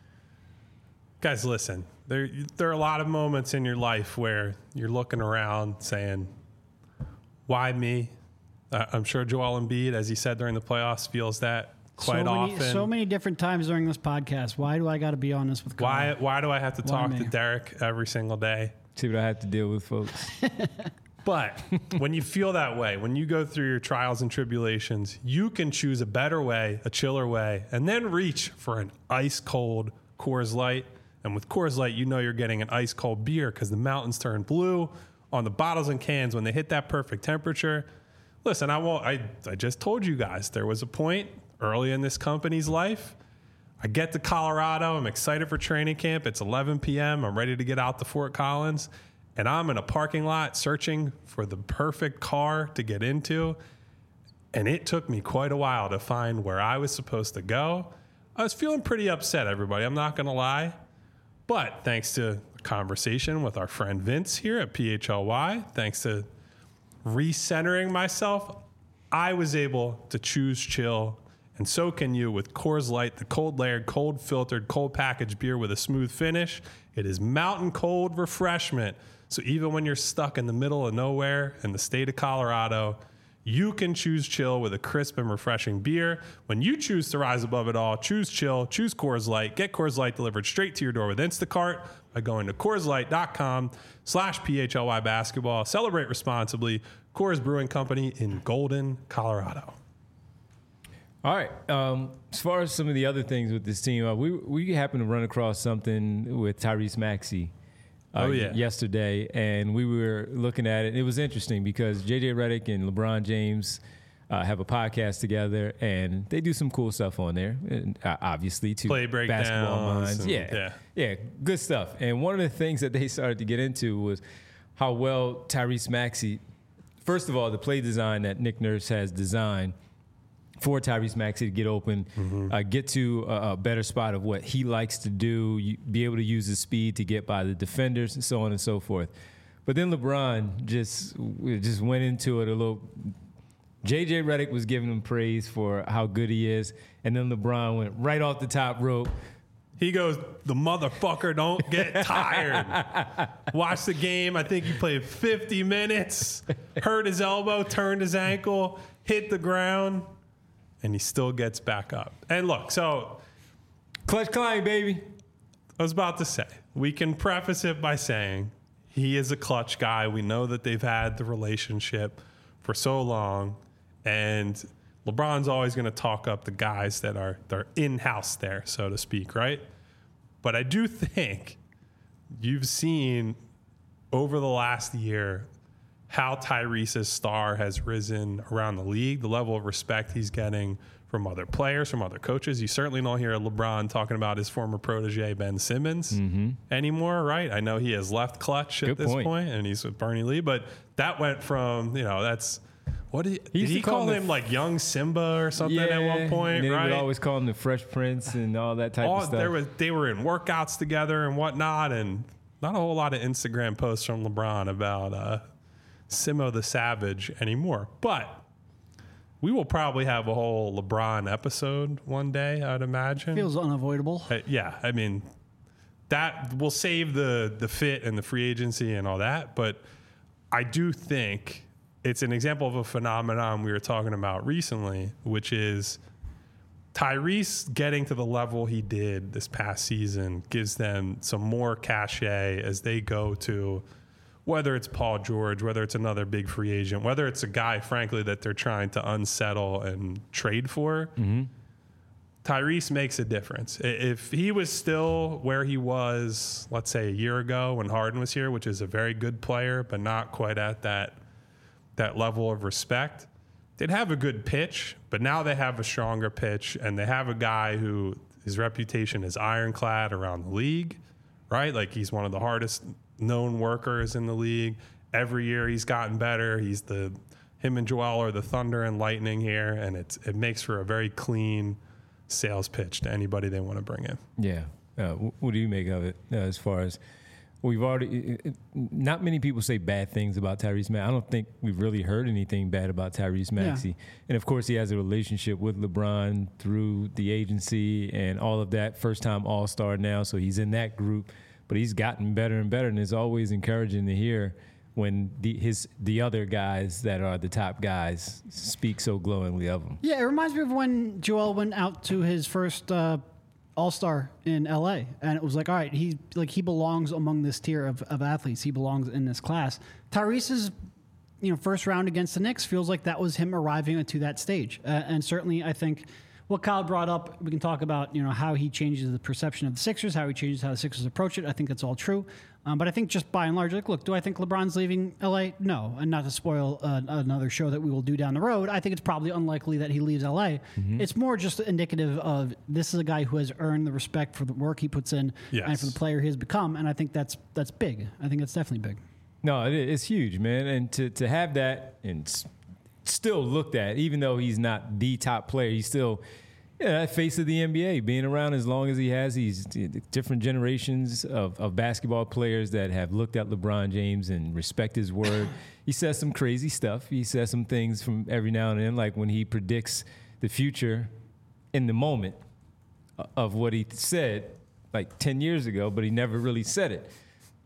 Guys, listen, there, there are a lot of moments in your life where you're looking around saying, why me? I'm sure Joel Embiid, as he said during the playoffs, feels that quite so many, often. So many different times during this podcast. Why do I got to be on this with Kyle? Why Why do I have to Why talk me? to Derek every single day? See what I have to deal with, folks. But when you feel that way, when you go through your trials and tribulations, you can choose a better way, a chiller way, and then reach for an ice-cold Coors Light. And with Coors Light, you know you're getting an ice-cold beer because the mountains turn blue on the bottles and cans when they hit that perfect temperature. Listen, I won't. I, I just told you guys there was a point early in this company's life. I get to Colorado. I'm excited for training camp. It's eleven p.m. I'm ready to get out to Fort Collins. And I'm in a parking lot searching for the perfect car to get into. And it took me quite a while to find where I was supposed to go. I was feeling pretty upset, everybody. I'm not going to lie. But thanks to a conversation with our friend Vince here at P H L Y, thanks to recentering myself, I was able to choose chill, and so can you with Coors Light, the cold layered, cold filtered, cold packaged beer with a smooth finish. It is mountain cold refreshment. So even when you're stuck in the middle of nowhere in the state of Colorado, You can choose chill with a crisp and refreshing beer. When you choose to rise above it all, choose chill, choose Coors Light. Get Coors Light delivered straight to your door with Instacart by going to CoorsLight.com slash PHLY basketball. Celebrate responsibly. Coors Brewing Company in Golden, Colorado. All right. Um, as far as some of the other things with this team, uh, we we happened to run across something with Tyrese Maxey uh, Oh, yeah. yesterday, and we were looking at it. It was interesting because J J Redick and LeBron James uh, have a podcast together, and they do some cool stuff on there. And, uh, obviously, to Play basketball breakdowns minds, and- yeah, yeah. yeah, good stuff. And one of the things that they started to get into was how well Tyrese Maxey. First of all, the play design that Nick Nurse has designed for Tyrese Maxey to get open, Mm-hmm. uh, get to a, a better spot of what he likes to do, you, be able to use his speed to get by the defenders and so on and so forth. But then LeBron just just went into it a little. J J Redick was giving him praise for how good he is, and then LeBron went right off the top rope. He goes, the motherfucker don't get tired. Watch the game. I think he played fifty minutes, hurt his elbow, turned his ankle, hit the ground, and he still gets back up. And look, so Clutch Klein, baby. I was about to say, we can preface it by saying he is a clutch guy. We know that they've had the relationship for so long, and LeBron's always going to talk up the guys that are they're in-house there, so to speak, right? But I do think you've seen over the last year how Tyrese's star has risen around the league, the level of respect he's getting from other players, from other coaches. You certainly don't hear LeBron talking about his former protege, Ben Simmons, mm-hmm. anymore, right? I know he has left Clutch at Good this point. point, and he's with Bernie Lee, but that went from, you know, that's, what did he, He did used he to call call him him the- like young Simba or something at one point, and then right? he would always call him the Fresh Prince and all that type All, of stuff. there was, they were in workouts together and whatnot, and not a whole lot of Instagram posts from LeBron about uh, Simo the Savage anymore. But we will probably have a whole LeBron episode one day, I'd imagine. Feels unavoidable. Uh, yeah, I mean, that will save the the fit and the free agency and all that. But I do think it's an example of a phenomenon we were talking about recently, which is Tyrese getting to the level he did this past season gives them some more cachet as they go to whether it's Paul George, whether it's another big free agent, whether it's a guy, frankly, that they're trying to unsettle and trade for. Mm-hmm. Tyrese makes a difference. I- If he was still where he was, let's say a year ago when Harden was here, which is a very good player, but not quite at that that level of respect, they'd have a good pitch, but now they have a stronger pitch, and they have a guy who his reputation is ironclad around the league, right? Like he's one of the hardest known workers in the league. Every year he's gotten better. He's the him and Joel are the thunder and lightning here, and it's it makes for a very clean sales pitch to anybody they want to bring in. Yeah. Uh, wh- what do you make of it uh, as far as we've already, it, it, not many people say bad things about Tyrese Maxey. I don't think we've really heard anything bad about Tyrese Maxey. Yeah. And of course, he has a relationship with LeBron through the agency and all of that. First time All-Star now, so he's in that group. But he's gotten better and better, and it's always encouraging to hear when the his the other guys that are the top guys speak so glowingly of him. Yeah, it reminds me of when Joel went out to his first uh, All-Star in L A, and it was like, all right, he like he belongs among this tier of, of athletes. He belongs in this class. Tyrese's, you know, first round against the Knicks feels like that was him arriving to that stage, uh, and certainly I think what Kyle brought up, we can talk about, you know, how he changes the perception of the Sixers, how he changes how the Sixers approach it. I think that's all true. Um, but I think just by and large, like, look, do I think LeBron's leaving L A? No. And not to spoil uh, another show that we will do down the road, I think it's probably unlikely that he leaves L A. Mm-hmm. It's more just indicative of this is a guy who has earned the respect for the work he puts in yes. and for the player he has become. And I think that's that's big. I think that's definitely big. No, it, it's huge, man. And to, to have that and still looked at, even though he's not the top player, he's still yeah, that face of the N B A, being around as long as he has. He's different generations of, of basketball players that have looked at LeBron James and respect his word. He says some crazy stuff. He says some things from every now and then, like when he predicts the future in the moment of what he said like ten years ago, but he never really said it.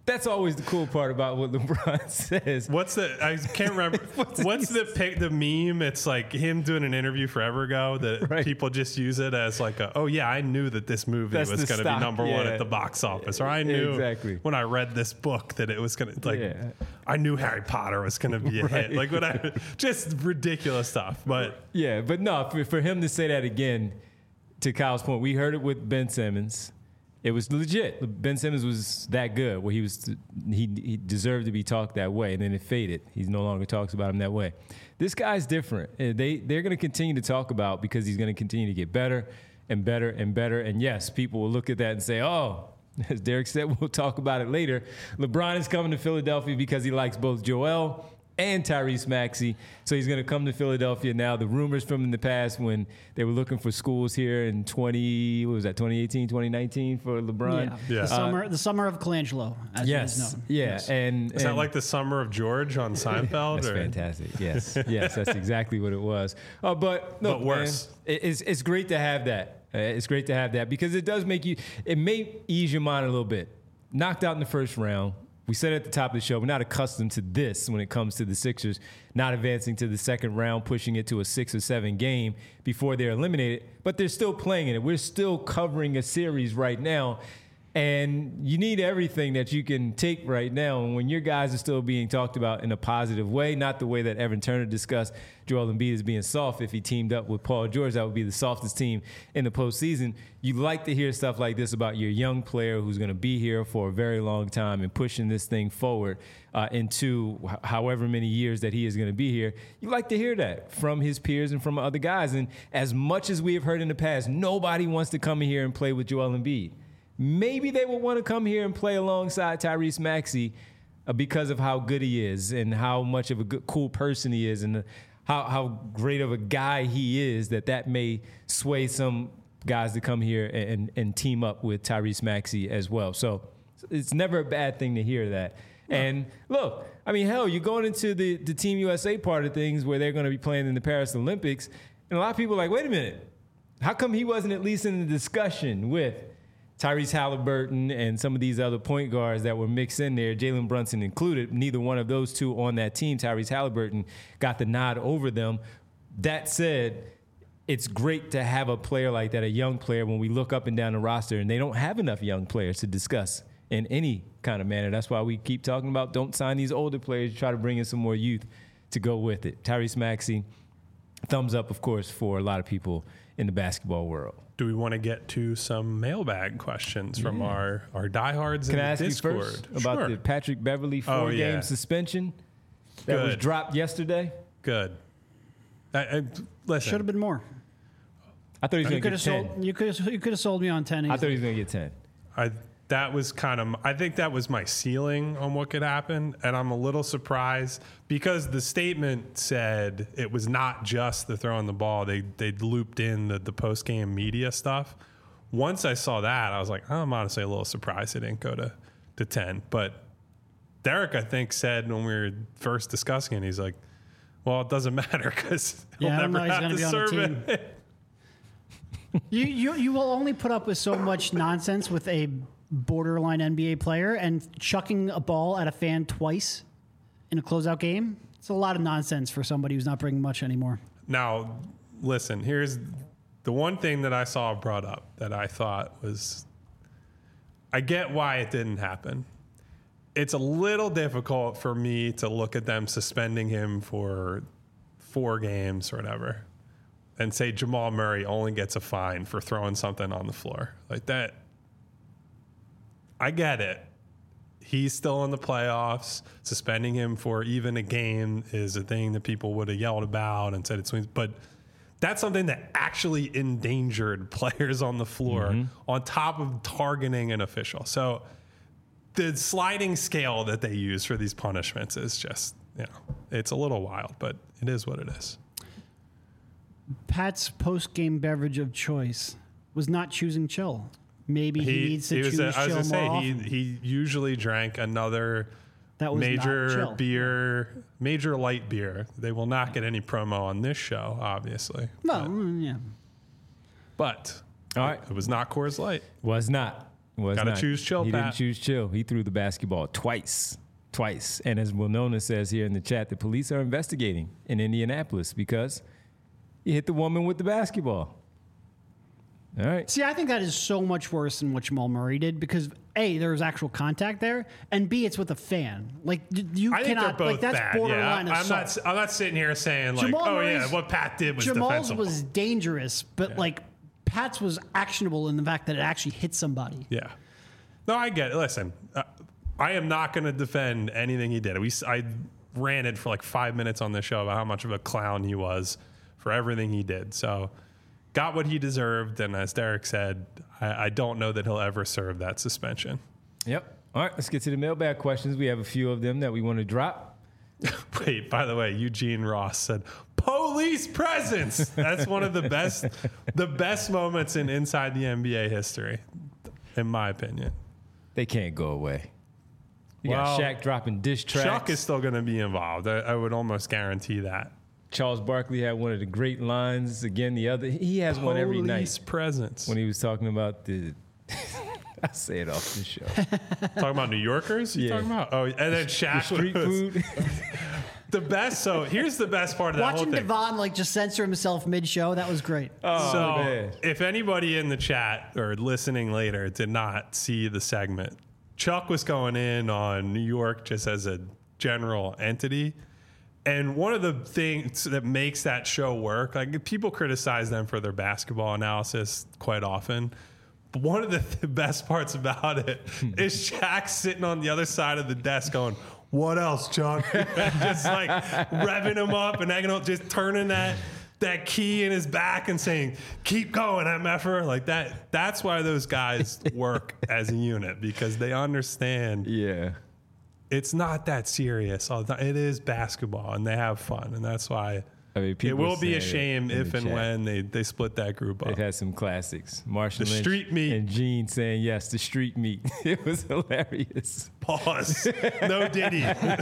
That's always the cool part about what LeBron says. What's the? I can't remember. what's, what's the pic? The meme? It's like him doing an interview forever ago that Right. people just use it as like, a, oh yeah, I knew that this movie That's was the going to be stock, number one yeah. at the box office, or I knew Exactly. when I read this book that it was going to like. Yeah. I knew Harry Potter was going to be a hit. Like what I just ridiculous stuff, but Yeah, but no, for, for him to say that again, to Kyle's point, we heard it with Ben Simmons. It was legit. Ben Simmons was that good where he was he, he deserved to be talked that way, and then it faded. He no longer talks about him that way. This guy's different. Uh, They they're going to continue to talk about because he's going to continue to get better and better and better. And yes, people will look at that and say, "Oh, as Derek said, we'll talk about it later. LeBron is coming to Philadelphia because he likes both Joel and Tyrese Maxey. So he's going to come to Philadelphia now. The rumors from in the past when they were looking for schools here in twenty, what was that, twenty eighteen, twenty nineteen for LeBron? Yeah. Yeah. The summer, the summer of Colangelo, as it is Yes. known. Yeah. Yes. And, is that and- like the summer of George on Seinfeld? That's or? fantastic. Yes, yes, that's exactly what it was. Uh, but look, But worse. man, it- it's it's great to have that. Uh, it's great to have that because it does make you. It may ease your mind a little bit. Knocked out in the first round. We said at the top of the show, we're not accustomed to this when it comes to the Sixers not advancing to the second round, pushing it to a six or seven game before they're eliminated. But they're still playing in it. We're still covering a series right now. And you need everything that you can take right now. And when your guys are still being talked about in a positive way, not the way that Evan Turner discussed Joel Embiid as being soft. If he teamed up with Paul George, that would be the softest team in the postseason. You like to hear stuff like this about your young player who's going to be here for a very long time and pushing this thing forward uh, into h- however many years that he is going to be here. You like to hear that from his peers and from other guys. And as much as we have heard in the past, nobody wants to come in here and play with Joel Embiid. Maybe they will want to come here and play alongside Tyrese Maxey uh, because of how good he is and how much of a good, cool person he is and uh, how, how great of a guy he is that that may sway some guys to come here and, and team up with Tyrese Maxey as well. So it's never a bad thing to hear that. And look, I mean, hell, you're going into the, the Team U S A part of things where they're going to be playing in the Paris Olympics. And a lot of people are like, wait a minute, how come he wasn't at least in the discussion with Tyrese Halliburton and some of these other point guards that were mixed in there, Jalen Brunson included? Neither one of those two on that team, Tyrese Halliburton, got the nod over them. That said, it's great to have a player like that, a young player, when we look up and down the roster, and they don't have enough young players to discuss in any kind of manner. That's why we keep talking about don't sign these older players, try to bring in some more youth to go with it. Tyrese Maxey, thumbs up, of course, for a lot of people in the basketball world. Do we want to get to some mailbag questions from our, our diehards Can in I the ask Discord? you first about Sure. the Patrick Beverly Oh, four-game yeah. suspension that was Good. dropped yesterday? Good. I, I, listen, Should have been more. I thought he was You going could to have get ten. sold. You could have. You could have sold me on ten. I thought he was going to get ten. I that was kind of I think that was my ceiling on what could happen, and I'm a little surprised because the statement said it was not just the throwing the ball. They they looped in the, the post game media stuff. Once I saw that, I was like, I'm honestly a little surprised it didn't go to to ten. But Derek, I think, said when we were first discussing it, he's like, well, it doesn't matter because he'll Yeah, I don't never know he's have gonna to be on the serve team. it. You, you you will only put up with so much nonsense with a borderline N B A player, and chucking a ball at a fan twice in a closeout game. It's a lot of nonsense for somebody who's not bringing much anymore. Now, listen, here's the one thing that I saw brought up that I thought was, I get why it didn't happen. It's a little difficult for me to look at them suspending him for four games or whatever and say Jamal Murray only gets a fine for throwing something on the floor. Like that, I get it. He's still in the playoffs. Suspending him for even a game is a thing that people would have yelled about and said it swings. But that's something that actually endangered players on the floor Mm-hmm. on top of targeting an official. So the sliding scale that they use for these punishments is just, you know, it's a little wild, but it is what it is. Pat's post-game beverage of choice was not choosing chill. Maybe he, needs to he was choose a, I was chill gonna say, more often. he, he usually drank another That was not major chill. beer, major light beer. They will not get any promo on this show, obviously. Well, mm, yeah. But All right. it was not Coors Light. Was not. Was Gotta not. choose chill, He Pat. didn't choose chill. He threw the basketball twice. Twice. And as Winona says here in the chat, the police are investigating in Indianapolis because he hit the woman with the basketball. All right. See, I think that is so much worse than what Jamal Murray did because A, there was actual contact there, and B, it's with a fan. Like d- you I think cannot. they're both like that's bad. borderline Yeah, I- I'm assault. not. I'm not sitting here saying like, Jamal oh yeah, Murray's- what Pat did was Jamal's defensible. was dangerous, but like Pat's was actionable in the fact that it actually hit somebody. Yeah. No, I get it. Listen, uh, I am not going to defend anything he did. We, s- I ranted for like five minutes on this show about how much of a clown he was for everything he did. So, got what he deserved. And as Derek said, I, I don't know that he'll ever serve that suspension. Yep. All right. Let's get to the mailbag questions. We have a few of them that we want to drop. Wait, by the way, Eugene Ross said, police presence. That's one of the best, the best moments in Inside the N B A history, in my opinion. They can't go away. You Well, got Shaq dropping dish tracks. Chuck is still going to be involved. I, I would almost guarantee that. Charles Barkley had one of the great lines. Again, the other he has one every Police night presence. when he was talking about the. I say it off the show. Talking about New Yorkers? You Yeah. talking about? Oh, and then Shaq Street was food. the best. So here's the best part of that Watching whole thing. Devon like just censor himself mid-show, that was great. Oh, so man. if anybody in the chat or listening later did not see the segment, Chuck was going in on New York just as a general entity. And one of the things that makes that show work, like people criticize them for their basketball analysis quite often. But one of the th- best parts about it is Shaq sitting on the other side of the desk going, what else, Chuck? Just like revving him up and egging him, just turning that that key in his back and saying, keep going, M F R. Like that. That's why those guys work as a unit, because they understand Yeah. it's not that serious all the time. It is basketball, and they have fun, and that's why I mean, it people will be a say it shame in if the and chat. when they, they split that group up. They've had some classics. Marshall The Lynch street meat. and Gene saying yes, the street meat. It was hilarious. Pause. No Diddy.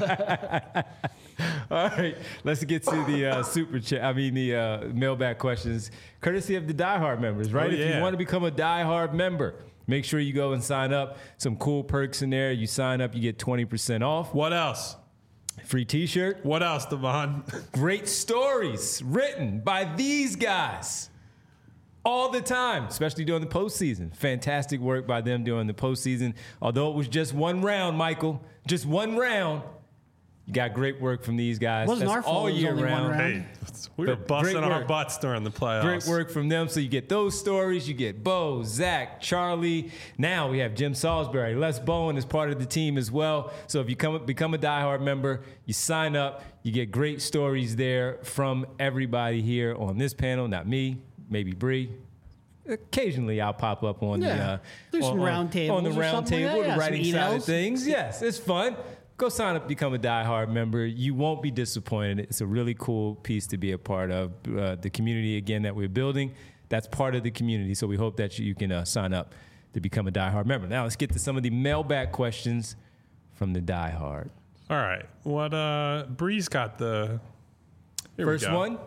All right, let's get to the uh, super chat. I mean, the uh, mailbag questions, courtesy of the Die Hard members, right? Oh, If yeah. you want to become a Die Hard member, make sure you go and sign up. Some cool perks in there. You sign up, you get twenty percent off. What else? Free T-shirt. What else, Devon? Great stories written by these guys all the time, especially during the postseason. Fantastic work by them during the postseason. Although it was just one round, Michael, just one round. You got great work from these guys. Wasn't That's our fault all it was year only one round. round. Hey, we were But busting great our work. butts during the playoffs. Great work from them. So you get those stories. You get Bo, Zach, Charlie. Now we have Jim Salisbury. Les Bowen is part of the team as well. So if you come become a diehard member, you sign up. You get great stories there from everybody here on this panel. Not me, maybe Bree. Occasionally I'll pop up on the Yeah. uh, There's on, some on- round tables on the or round something like table, that. Yeah, the some writing side of emails. things. Yes, it's fun. Go sign up, become a diehard member. You won't be disappointed. It's a really cool piece to be a part of. Uh, the community, again, that we're building, that's part of the community. So we hope that you, you can uh, sign up to become a diehard member. Now let's get to some of the mailback questions from the diehard. All right. What, uh, Bree's got the. Here we First go. one,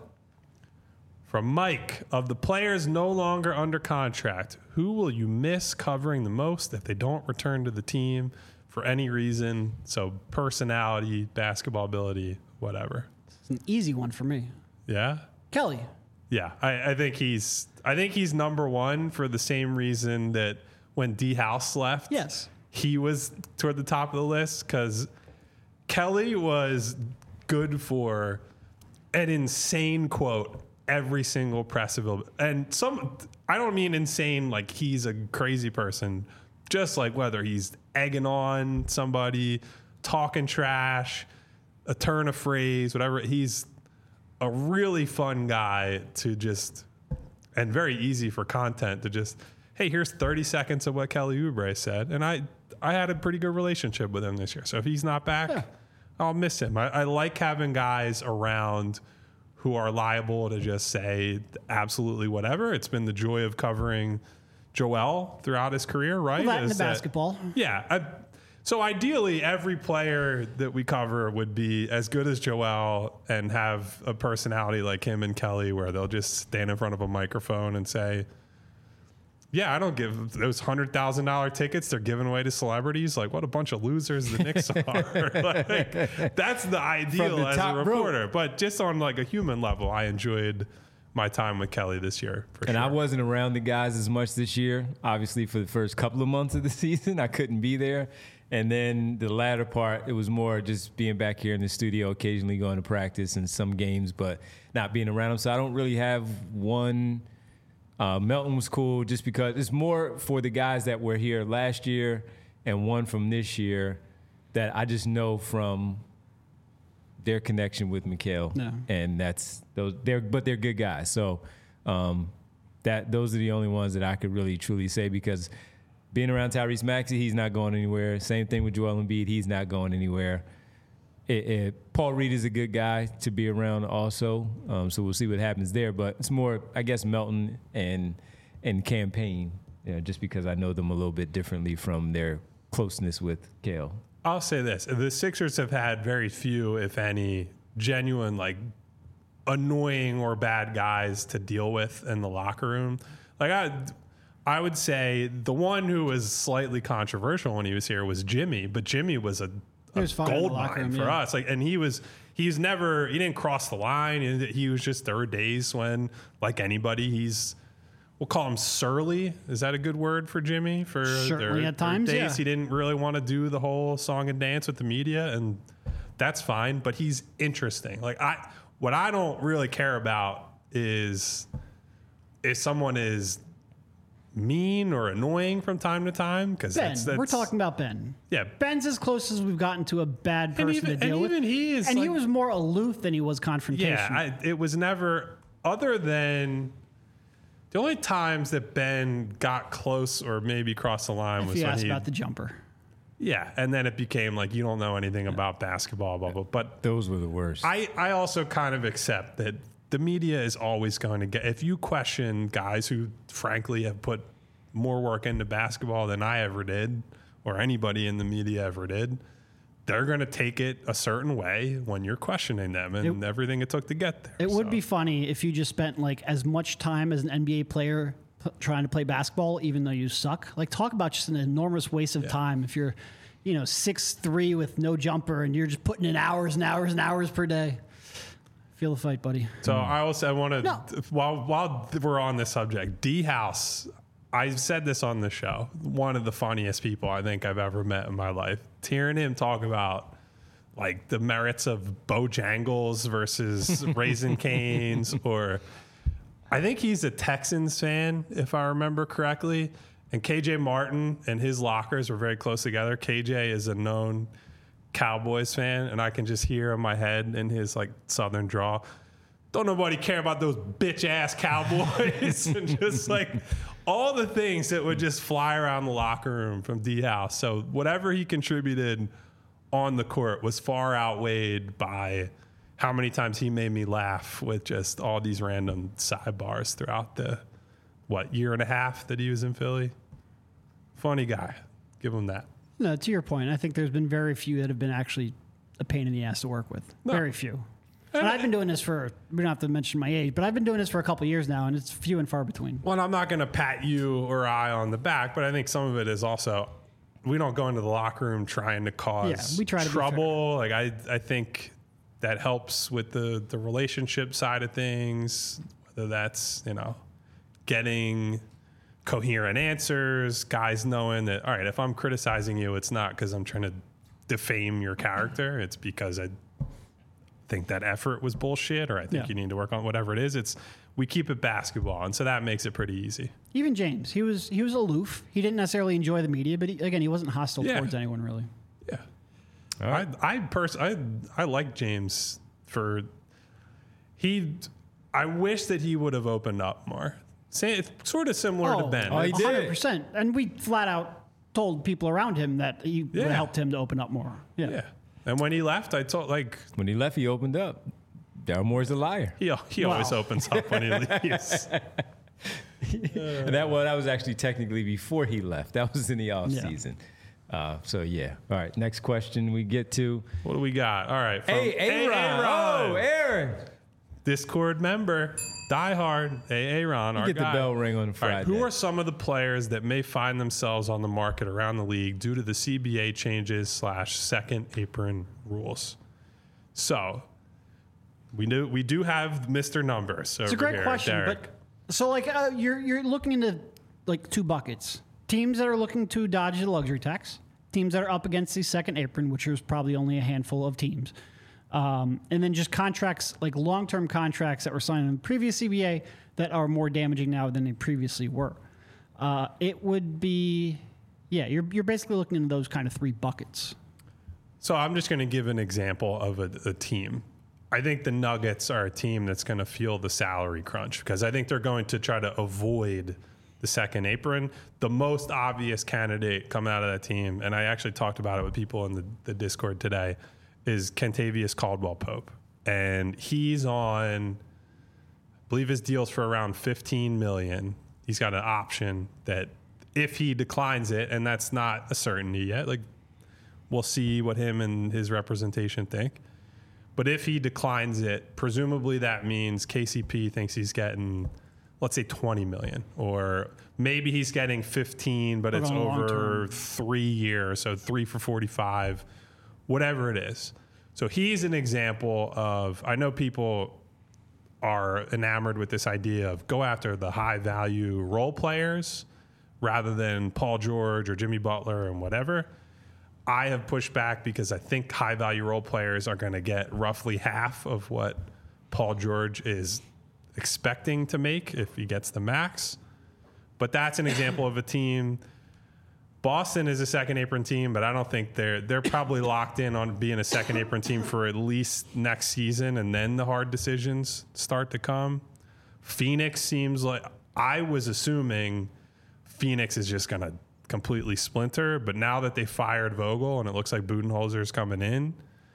From Mike, of the players no longer under contract, who will you miss covering the most if they don't return to the team for any reason? So personality, basketball ability, whatever. It's an easy one for me. Yeah? Kelly. Yeah. I, I think he's I think he's number one for the same reason that when D House left, Yes. he was toward the top of the list, because Kelly was good for an insane quote every single press available. And some, I don't mean insane like he's a crazy person, just like whether he's egging on somebody, talking trash, a turn of phrase, whatever. He's a really fun guy to just, and very easy for content to just, hey, here's thirty seconds of what Kelly Oubre said. And I, I had a pretty good relationship with him this year. So if he's not back, Yeah. I'll miss him. I, I like having guys around who are liable to just say absolutely whatever. It's been the joy of covering Joel throughout his career, right? Well, that and Is the basketball. Yeah. I, so ideally, every player that we cover would be as good as Joel and have a personality like him and Kelly, where they'll just stand in front of a microphone and say, Yeah, I don't give those hundred thousand dollar tickets they're giving away to celebrities. Like, what a bunch of losers the Knicks are. Like, that's the ideal the as a top reporter. But just on like a human level, I enjoyed my time with Kelly this year. For And sure. I wasn't around the guys as much this year. Obviously, for the first couple of months of the season, I couldn't be there. And then the latter part, it was more just being back here in the studio, occasionally going to practice and some games, but not being around them. So I don't really have one. Uh, Melton was cool just because it's more for the guys that were here last year and one from this year that I just know from their connection with Mikal. No. And that's those. They're but they're good guys. So um, that those are the only ones that I could really truly say because being around Tyrese Maxey, he's not going anywhere. Same thing with Joel Embiid, he's not going anywhere. It, it, Paul Reed is a good guy to be around also, um, so we'll see what happens there. But it's more, I guess, Melton and and Campaign, you know, just because I know them a little bit differently from their closeness with Kale. I'll say this: the Sixers have had very few, if any, genuine like annoying or bad guys to deal with in the locker room. Like I, I would say the one who was slightly controversial when he was here was Jimmy, but Jimmy was a He was fine in the gold locker mine room, for yeah. us. Like, and he was, he's never, he didn't cross the line. He he was just, there were days when, like anybody, he's, we'll call him surly. Is that a good word for Jimmy? For Certainly there, at times, there were days yeah. he didn't really want to do the whole song and dance with the media, and that's fine. But he's interesting. Like I, what I don't really care about is if someone is mean or annoying from time to time, because Ben, that's, that's we're talking about Ben. Yeah. Ben's as close as we've gotten to a bad person even- to and deal with. even he is, and he like- was more aloof than he was confrontational. Yeah, I, it was never, other than the only times that Ben got close or maybe crossed the line if was you when asked he, about the jumper. yeah, and then it became like you don't know anything about basketball, blah blah. But Those were the worst. I, I also kind of accept that the media is always going to get, if you question guys who frankly have put more work into basketball than I ever did, or anybody in the media ever did, they're going to take it a certain way when you're questioning them and It- everything it took to get there. It would So, be funny if you just spent like as much time as an N B A player p- trying to play basketball, even though you suck. Like talk about just an enormous waste of time if you're, you know, six three with no jumper and you're just putting in hours and hours and hours per day. Feel the fight, buddy. So I also I want to No. while while we're on this subject, D House. I've said this on the show. One of the funniest people I think I've ever met in my life. Hearing him talk about like the merits of Bojangles versus Raisin Canes, or I think he's a Texans fan, if I remember correctly. And K J Martin and his lockers were very close together. K J is a known Cowboys fan, and I can just hear in my head in his like Southern drawl, don't nobody care about those bitch ass Cowboys. And just like all the things that would just fly around the locker room from D House. So whatever he contributed on the court was far outweighed by how many times he made me laugh with just all these random sidebars throughout the, what, year and a half that he was in Philly. Funny guy. Give him that. No, to your point, I think there's been very few that have been actually a pain in the ass to work with. No. Very few. And I've been doing this for, we don't have to mention my age, but I've been doing this for a couple of years now, and it's few and far between. Well, I'm not going to pat you or I on the back, but I think some of it is also we don't go into the locker room trying to cause Yeah, we try to be trouble. Like I, I think that helps with the the relationship side of things. Whether that's you know getting coherent answers, guys knowing that all right, if I'm criticizing you, it's not because I'm trying to defame your character. It's because I think that effort was bullshit, or I think Yeah. you need to work on whatever it is. It's we keep it basketball, and so that makes it pretty easy. Even James, he was he was aloof. He didn't necessarily enjoy the media, but he, again, he wasn't hostile Yeah. towards anyone really. Yeah, All right. I I pers- I I like James for he. I wish that he would have opened up more. Say it's sort of similar to Ben. Oh, he It's- did. one hundred percent. And we flat out told people around him that he would Yeah. have helped him to open up more. Yeah. Yeah, and when he left, I told like When he left, he opened up. Daryl Moore's a liar. he he always Wow. opens up when he leaves. And that well, that was actually technically before he left. That was in the off Yeah. season. Uh, so yeah. All right. Next question we get to. What do we got? All right, from Hey, Aaron. Aaron. Oh, Aaron. Discord member. Die hard, A A Ron, our Get guy. the bell ring on All right, Friday. who are some of the players that may find themselves on the market around the league due to the C B A changes slash second apron rules? So we do we do have Mister Numbers. It's a great here, question, Derek. but so like uh, you're you're looking into like two buckets: teams that are looking to dodge the luxury tax, teams that are up against the second apron, which is probably only a handful of teams, um, and then just contracts like long-term contracts that were signed in the previous C B A that are more damaging now than they previously were. Uh, it would be, yeah, you're you're basically looking into those kind of three buckets. So I'm just going to give an example of a, a team. I think the Nuggets are a team that's going to feel the salary crunch because I think they're going to try to avoid the second apron. The most obvious candidate coming out of that team, and I actually talked about it with people in the, the Discord today, is Kentavious Caldwell-Pope. And he's on, I believe his deal's for around fifteen million dollars. He's got an option that if he declines it, and that's not a certainty yet, like we'll see what him and his representation think. But if he declines it, presumably that means K C P thinks he's getting, let's say twenty million, or maybe he's getting fifteen, but Or it's on long over term. three years, so three for forty-five, whatever it is. So he's an example of, I know people are enamored with this idea of go after the high value role players rather than Paul George or Jimmy Butler and whatever. I have pushed back because I think high value role players are going to get roughly half of what Paul George is expecting to make if he gets the max. But that's an example of a team. Boston is a second apron team, but I don't think they're they're probably locked in on being a second apron team for at least next season, and then the hard decisions start to come. Phoenix seems like, I was assuming Phoenix is just going to completely splinter, but now that they fired Vogel and it looks like Budenholzer's coming in,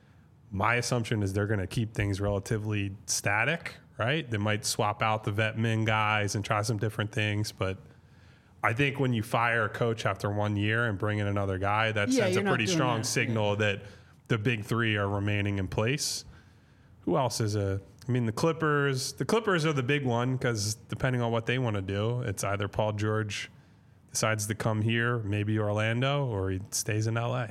my assumption is they're going to keep things relatively static, right? They might swap out the vet min guys and try some different things, but I think when you fire a coach after one year and bring in another guy, that Yeah, sends a you're not pretty doing strong that. signal that the big three are remaining in place. Who else is a, I mean, the Clippers, the Clippers are the big one because depending on what they want to do, it's either Paul George decides to come here, maybe Orlando, or he stays in L A.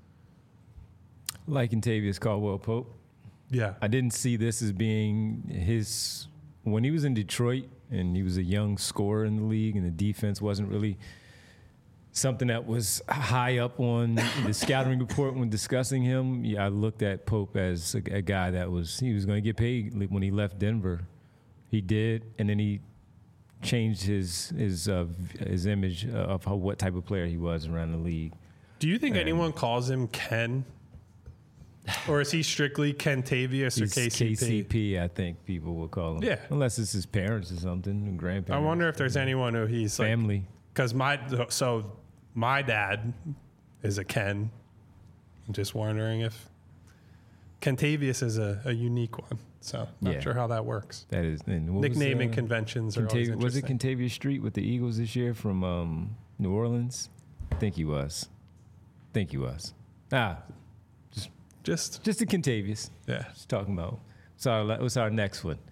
Like Kentavious Caldwell-Pope. Yeah. I didn't see this as being his, when he was in Detroit and he was a young scorer in the league and the defense wasn't really something that was high up on the scouting report when discussing him. Yeah, I looked at Pope as a, a guy that was, he was going to get paid when he left Denver. He did, and then he changed his his uh, his image of how, what type of player he was around the league. Do you think anyone calls him Ken? Or is he strictly Kentavious or He's K C P? K C P, I think people will call him. Yeah. Unless it's his parents or something, I grandparents. wonder if there's anyone who he's like, family. because my so my dad is a Ken. I'm just wondering if Kentavious is a, a unique one. So not Yeah. sure how that works. That is and what was, Nicknaming uh, conventions are always Contav- was it interesting. Contavious Street with the Eagles this year from um, New Orleans? I think he was. I think he was. Ah, Just just a Contavious. yeah. Just talking about. So what's our next one?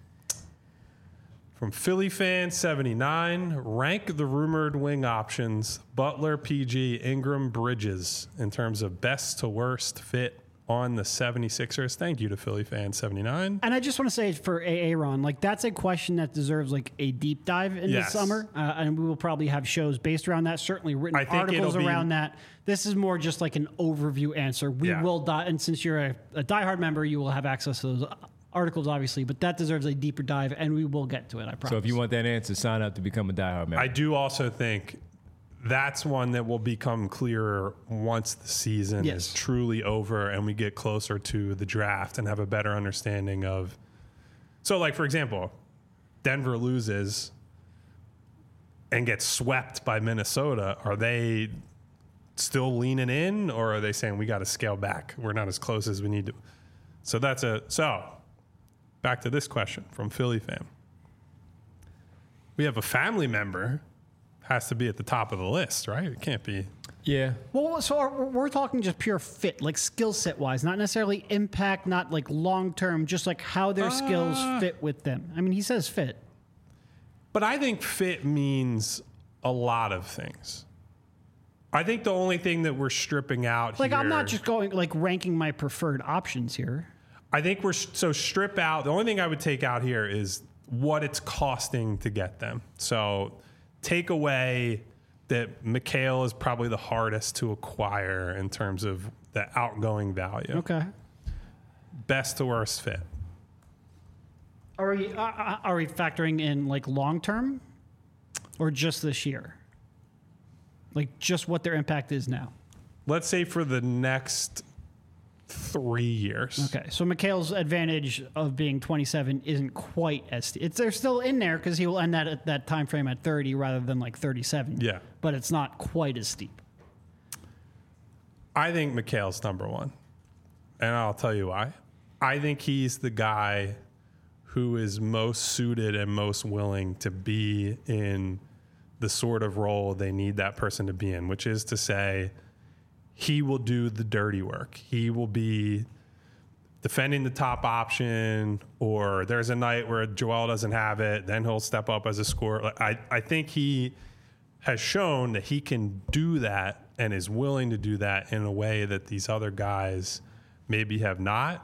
From Philly fan seventy-nine, rank the rumored wing options: Butler, P G, Ingram, Bridges, in terms of best to worst fit on the seventy-sixers. Thank you to Philly fan seventy-nine. And I just want to say for A A Ron, like that's a question that deserves like a deep dive in Yes. the summer, uh, and we will probably have shows based around that. Certainly written I think articles it'll be- around that. This is more just like an overview answer. We Yeah. will dive, and since you're a, a diehard member, you will have access to those articles, obviously. But that deserves a deeper dive, and we will get to it. I promise. So if you want that answer, sign up to become a diehard member. I do also think that's one that will become clearer once the season Yes. is truly over and we get closer to the draft and have a better understanding of. So, like, for example, Denver loses and gets swept by Minnesota. Are they still leaning in, or are they saying we got to scale back? We're not as close as we need to. So that's a so. Back to this question from Philly fan. We have a family member has to be at the top of the list, right? It can't be. yeah. Well, so we're we're talking just pure fit, like skill set wise, not necessarily impact, not like long term, just like how their skills Uh. fit with them. I mean, he says fit. But I think fit means a lot of things. I think the only thing that we're stripping out Like, here, I'm not just going, like, ranking my preferred options here. I think we're so strip out. The only thing I would take out here is what it's costing to get them. So take away that Mikal is probably the hardest to acquire in terms of the outgoing value. Okay. Best to worst fit. Are we uh, are we factoring in like long term, or just this year? Like just what their impact is now. Let's say for the next three years. Okay, so Mikal's advantage of being twenty-seven isn't quite as st- it's they're still in there because he will end that at that time frame at thirty rather than like thirty-seven. Yeah, but it's not quite as steep. I think Mikal's number one, and I'll tell you why. I think he's the guy who is most suited and most willing to be in the sort of role they need that person to be in, which is to say, he will do the dirty work. He will be defending the top option, or there's a night where Joel doesn't have it, then he'll step up as a scorer. I, I think he has shown that he can do that and is willing to do that in a way that these other guys maybe have not.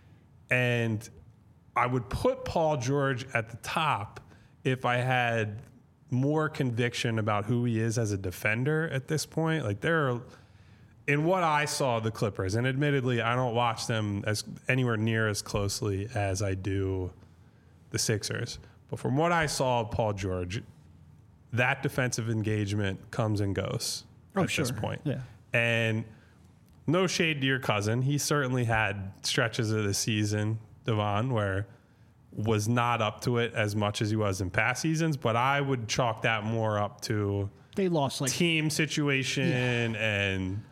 And I would put Paul George at the top if I had more conviction about who he is as a defender at this point. Like there are, in what I saw of the Clippers, and admittedly, I don't watch them as anywhere near as closely as I do the Sixers. But from what I saw of Paul George, that defensive engagement comes and goes Oh, at sure. this point. Yeah. And no shade to your cousin. He certainly had stretches of the season, Devon, where was not up to it as much as he was in past seasons, but I would chalk that more up to They lost like team situation yeah. and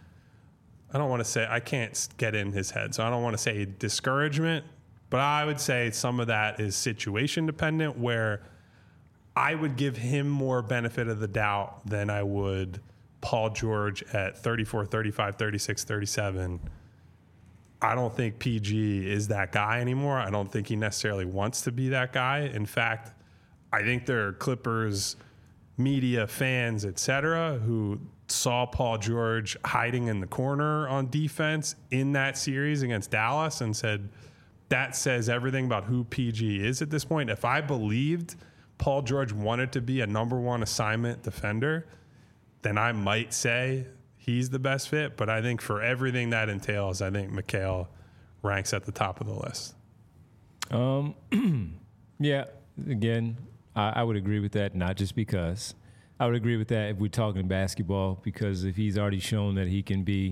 I don't want to say, I can't get in his head, so I don't want to say discouragement, but I would say some of that is situation dependent, where I would give him more benefit of the doubt than I would Paul George at thirty-four, thirty-five, thirty-six, thirty-seven. I don't think P G is that guy anymore. I don't think he necessarily wants to be that guy. In fact, I think there are Clippers media, fans, et cetera, who saw Paul George hiding in the corner on defense in that series against Dallas and said, that says everything about who P G is at this point. If I believed Paul George wanted to be a number one assignment defender, then I might say he's the best fit. But I think for everything that entails, I think Mikal ranks at the top of the list. Um, yeah, again, I, I would agree with that, not just because. I would agree with that if we're talking basketball, because if he's already shown that he can be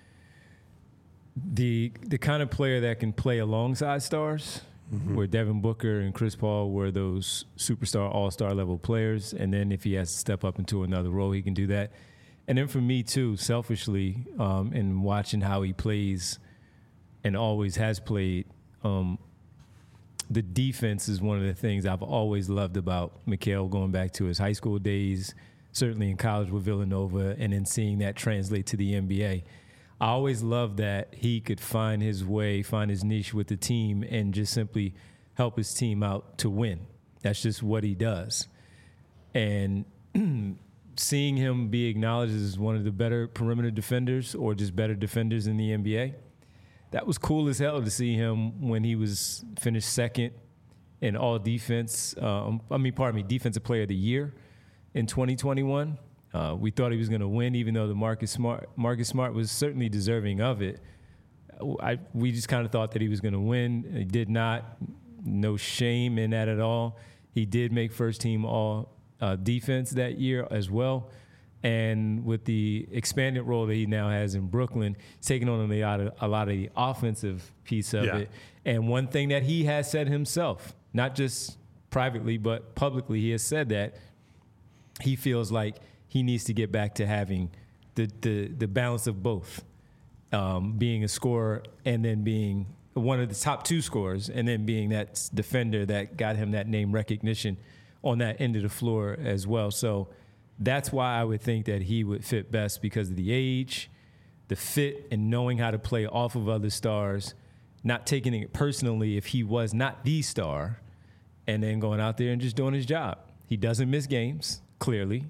the the kind of player that can play alongside stars, mm-hmm. where Devin Booker and Chris Paul were those superstar, all-star level players, and then if he has to step up into another role, he can do that. And then for me, too, selfishly, um, in watching how he plays and always has played, um, the defense is one of the things I've always loved about Mikal, going back to his high school days, certainly in college with Villanova, and then seeing that translate to the N B A. I always loved that he could find his way, find his niche with the team, and just simply help his team out to win. That's just what he does. And seeing him be acknowledged as one of the better perimeter defenders, or just better defenders in the N B A, that was cool as hell to see him when he was finished second in all defense. Um, I mean, pardon me, defensive player of the year in twenty twenty-one. Uh, we thought he was going to win, even though the Marcus Smart, Marcus Smart was certainly deserving of it. I, we just kind of thought that he was going to win. He did not. No shame in that at all. He did make first team all uh, defense that year as well. And with the expanded role that he now has in Brooklyn, he's taking on a lot of, a lot of the offensive piece of yeah. it. And one thing that he has said himself, not just privately, but publicly, he has said that he feels like he needs to get back to having the the, the balance of both, um, being a scorer and then being one of the top two scorers, and then being that defender that got him that name recognition on that end of the floor as well. So that's why I would think that he would fit best, because of the age, the fit, and knowing how to play off of other stars, not taking it personally if he was not the star, and then going out there and just doing his job. He doesn't miss games, clearly.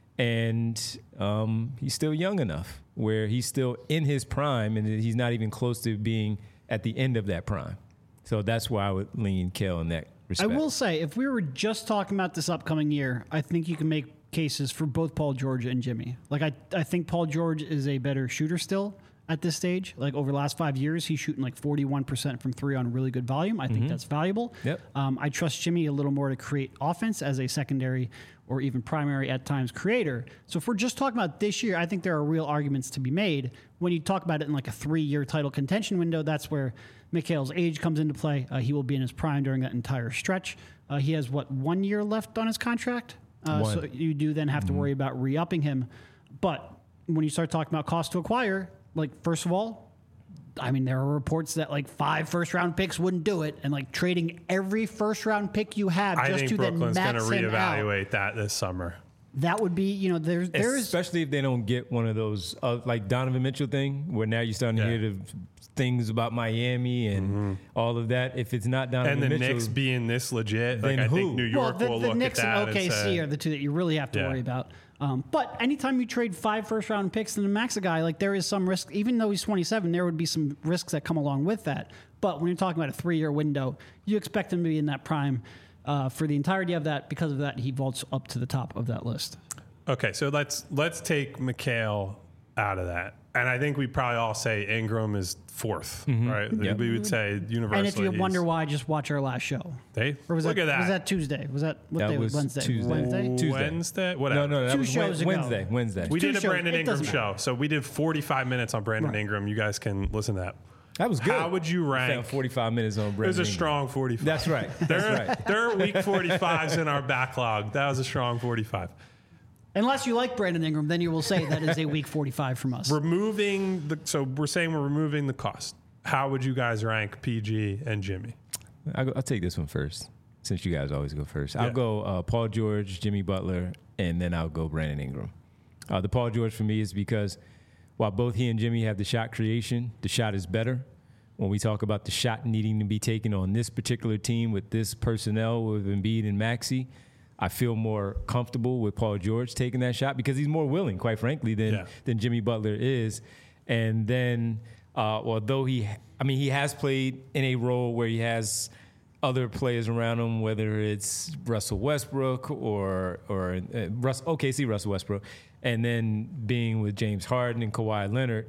And um, he's still young enough where he's still in his prime and he's not even close to being at the end of that prime. So that's why I would lean Cale in that respect. I will say, if we were just talking about this upcoming year, I think you can make cases for both Paul George and Jimmy. Like, I, I think Paul George is a better shooter still at this stage. Like, over the last five years, he's shooting like forty-one percent from three on really good volume. I think mm-hmm. that's valuable. Yep. Um, I trust Jimmy a little more to create offense as a secondary or even primary at times creator. So if we're just talking about this year, I think there are real arguments to be made. When you talk about it in like a three-year title contention window, that's where Mikhail's age comes into play. Uh, he will be in his prime during that entire stretch. Uh, he has, what, one year left on his contract? Uh, so you do then have mm-hmm. to worry about re-upping him. But when you start talking about cost to acquire, like, first of all, I mean, there are reports that like five first-round picks wouldn't do it, and like trading every first-round pick you have I just think to Brooklyn's then going max to him out. reevaluate that this summer. That would be, you know, there's there's especially if they don't get one of those uh, like Donovan Mitchell thing, where now you're starting Yeah. to hear the things about Miami and Mm-hmm. all of that. If it's not Donovan And the Mitchell, Knicks being this legit, like Then I who? think New York well, the, will the look Knicks at that and O K C and say, are the two that you really have to Yeah. worry about. Um, but anytime you trade five first-round picks and max a guy, like there is some risk. Even though he's twenty-seven, there would be some risks that come along with that. But when you're talking about a three-year window, you expect him to be in that prime uh, for the entirety of that. Because of that, he vaults up to the top of that list. Okay, so let's let's take Mikal out of that, and I think we probably all say Ingram is fourth, right? Yep. We would say universally. And if you he's- wonder why, just watch our last show. they Or was look that, at that. Was that Tuesday? Was that what That day? was Wednesday. Tuesday. Wednesday. Tuesday. Wednesday? Whatever. no, no, that Two was shows ago. Wednesday. Wednesday. We Two did a shows. Brandon It Ingram doesn't show, so we did forty-five minutes on Brandon Right. Ingram. You guys can listen to that. that was good. How would you I rank? found forty-five minutes on Brandon It was a Ingram. strong forty-five. That's right. There, That's right. there are week forty-fives in our backlog. That was a strong forty-five. Unless you like Brandon Ingram, then you will say that is a week forty-five from us. Removing the so we're saying we're removing the cost. How would you guys rank P G and Jimmy? I'll, go, I'll take this one first, since you guys always go first. Yeah. I'll go uh, Paul George, Jimmy Butler, and then I'll go Brandon Ingram. Uh, the Paul George for me is because while both he and Jimmy have the shot creation, the shot is better. When we talk about the shot needing to be taken on this particular team with this personnel with Embiid and Maxey, I feel more comfortable with Paul George taking that shot because he's more willing, quite frankly, than Yeah. than Jimmy Butler is. And then, uh, although he, I mean, he has played in a role where he has other players around him, whether it's Russell Westbrook or or uh, Russ, O K C Russell Westbrook, and then being with James Harden and Kawhi Leonard,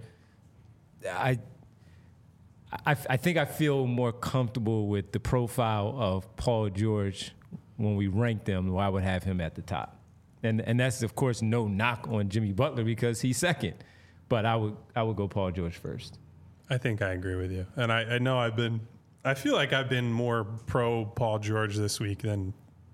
I. I, I think I feel more comfortable with the profile of Paul George when we rank them, where I would have him at the top. And and that's, of course, no knock on Jimmy Butler because he's second. But I would I would go Paul George first. I think I agree with you. And I, I know I've been, I feel like I've been more pro Paul George this week than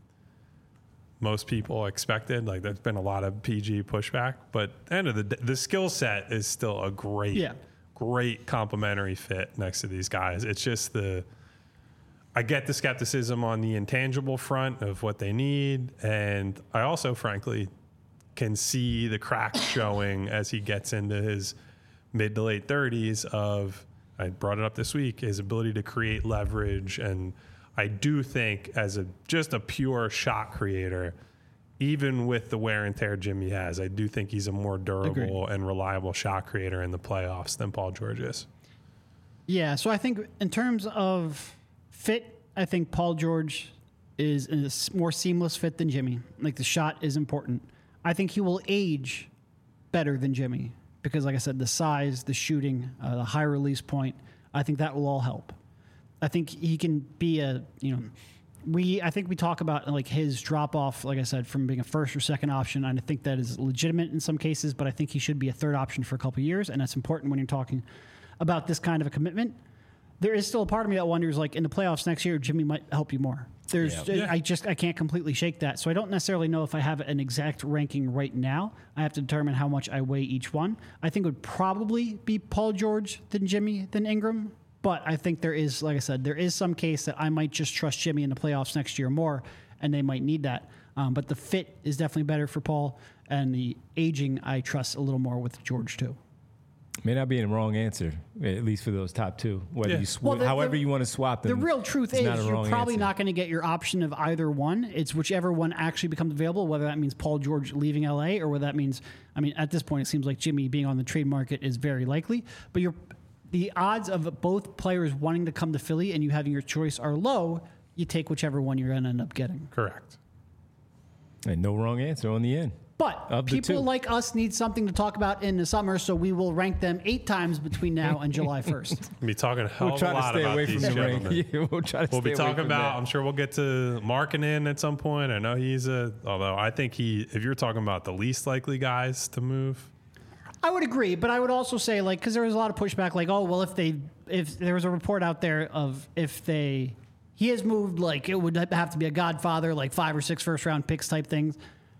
most people expected. Like there's been a lot of P G pushback, but at the end of the day, the skill set is still a great, Yeah. great complementary fit next to these guys. It's just the, I get the skepticism on the intangible front of what they need. And I also, frankly, can see the cracks showing as he gets into his mid to late thirties of, I brought it up this week, his ability to create leverage. And I do think as a just a pure shot creator, even with the wear and tear Jimmy has, I do think he's a more durable Agreed. and reliable shot creator in the playoffs than Paul George is. Yeah, so I think in terms of fit, I think Paul George is a s- more seamless fit than Jimmy. Like the shot is important. I think he will age better than Jimmy because, like I said, the size, the shooting, uh, the high release point, I think that will all help. I think he can be a, you know, we, I think we talk about like his drop off, like I said, from being a first or second option. And I think that is legitimate in some cases, but I think he should be a third option for a couple of years. And that's important when you're talking about this kind of a commitment. There is still a part of me that wonders, like in the playoffs next year, Jimmy might help you more. There's, Yeah. Yeah. I just, I can't completely shake that. So I don't necessarily know if I have an exact ranking right now. I have to determine how much I weigh each one. I think it would probably be Paul George than Jimmy than Ingram. But I think there is, like I said, there is some case that I might just trust Jimmy in the playoffs next year more, and they might need that. Um, but the fit is definitely better for Paul, and the aging I trust a little more with George too. May not be in the wrong answer, at least for those top two. Whether Yeah. you sw- Well, the- however the- you want to swap them. The real truth it's is not a you're wrong probably answer. not going to get your option of either one. It's whichever one actually becomes available, whether that means Paul George leaving L A or whether that means, I mean, at this point, it seems like Jimmy being on the trade market is very likely. But you're, the odds of both players wanting to come to Philly and you having your choice are low. You take whichever one you're going to end up getting. Correct. And no wrong answer on the end. But Of the people two. like us need something to talk about in the summer, so we will rank them eight times between now and July first. We'll be talking a hell We'll of a try to lot stay about away these from the ring. gentlemen. Yeah, we'll try to We'll stay be away talking from about, that. I'm sure we'll get to Markkanen at some point. I know he's a, although I think he, if you're talking about the least likely guys to move, I would agree, but I would also say, like, because there was a lot of pushback, like, oh, well, if they, if there was a report out there of if they, he has moved, like, it would have to be a Godfather, like five or six first round picks type things.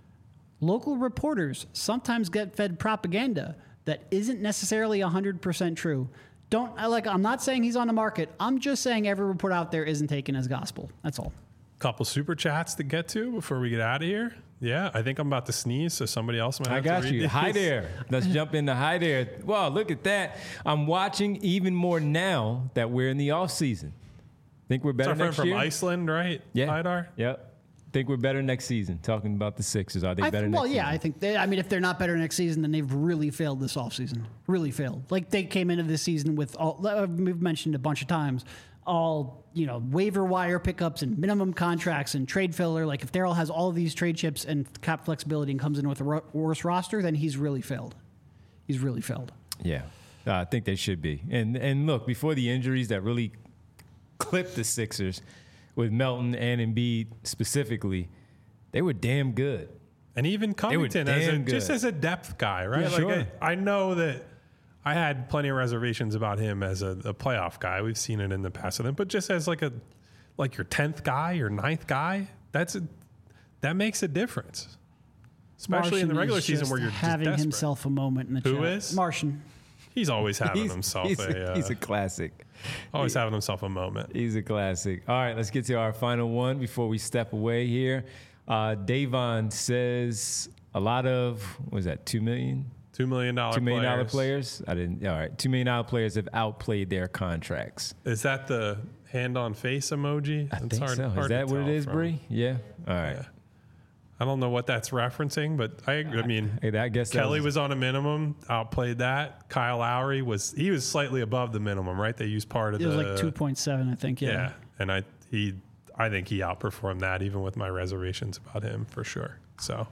Local reporters sometimes get fed propaganda that isn't necessarily one hundred percent true. Don't, I like, I'm not saying he's on the market. I'm just saying every report out there isn't taken as gospel. That's all. couple super chats to get to before we get out of here. Yeah, I think I'm about to sneeze, so somebody else might have I got to read you. these. Hi there. Let's jump into hi there. Wow, look at that. I'm watching even more now that we're in the off season. Think we're It's better our friend next from year? Iceland, right? Yeah. Haidar? Yep. Think we're better next season. Talking about the Sixers. Are they I better th- next well, yeah, season? I think they, I mean, if they're not better next season, then they've really failed this offseason. Really failed. Like they came into this season with all, uh, we've mentioned a bunch of times, all, you know, waiver wire pickups and minimum contracts and trade filler. Like if Daryl has all of these trade chips and cap flexibility and comes in with a ro- worse roster, then he's really failed. He's really failed. Yeah. Uh, I think they should be. And and look, before the injuries that really clipped the Sixers with Melton and Embiid specifically, they were damn good. And even Covington, as a, damn just good. as a depth guy, right? Yeah, like sure. I, I know that I had plenty of reservations about him as a, a playoff guy. We've seen it in the past with him, but just as like a like your tenth guy, your ninth guy, that's a, that makes a difference, especially in the Martian regular is season just where you're just having desperate. himself a moment in the Who chat. is? Martian. He's always having He's, himself he's, a, a, uh, he's a classic. always having himself a moment. He's a classic. All right, let's get to our final one before we step away here. Uh, Davon says a lot of, what was that, two million? Two million dollar Two million dollar players. players? I didn't, all right. Two million dollar players have outplayed their contracts. Is that the hand on face emoji? I think so. Is that what it is, Bree? Yeah. All right. Yeah. I don't know what that's referencing, but I, I mean, Hey, I guess that Kelly was- was on a minimum, outplayed that. Kyle Lowry was he was slightly above the minimum, right? They used part of It was the like two point seven, I think. Yeah. yeah, and I he I think he outperformed that even with my reservations about him for sure. So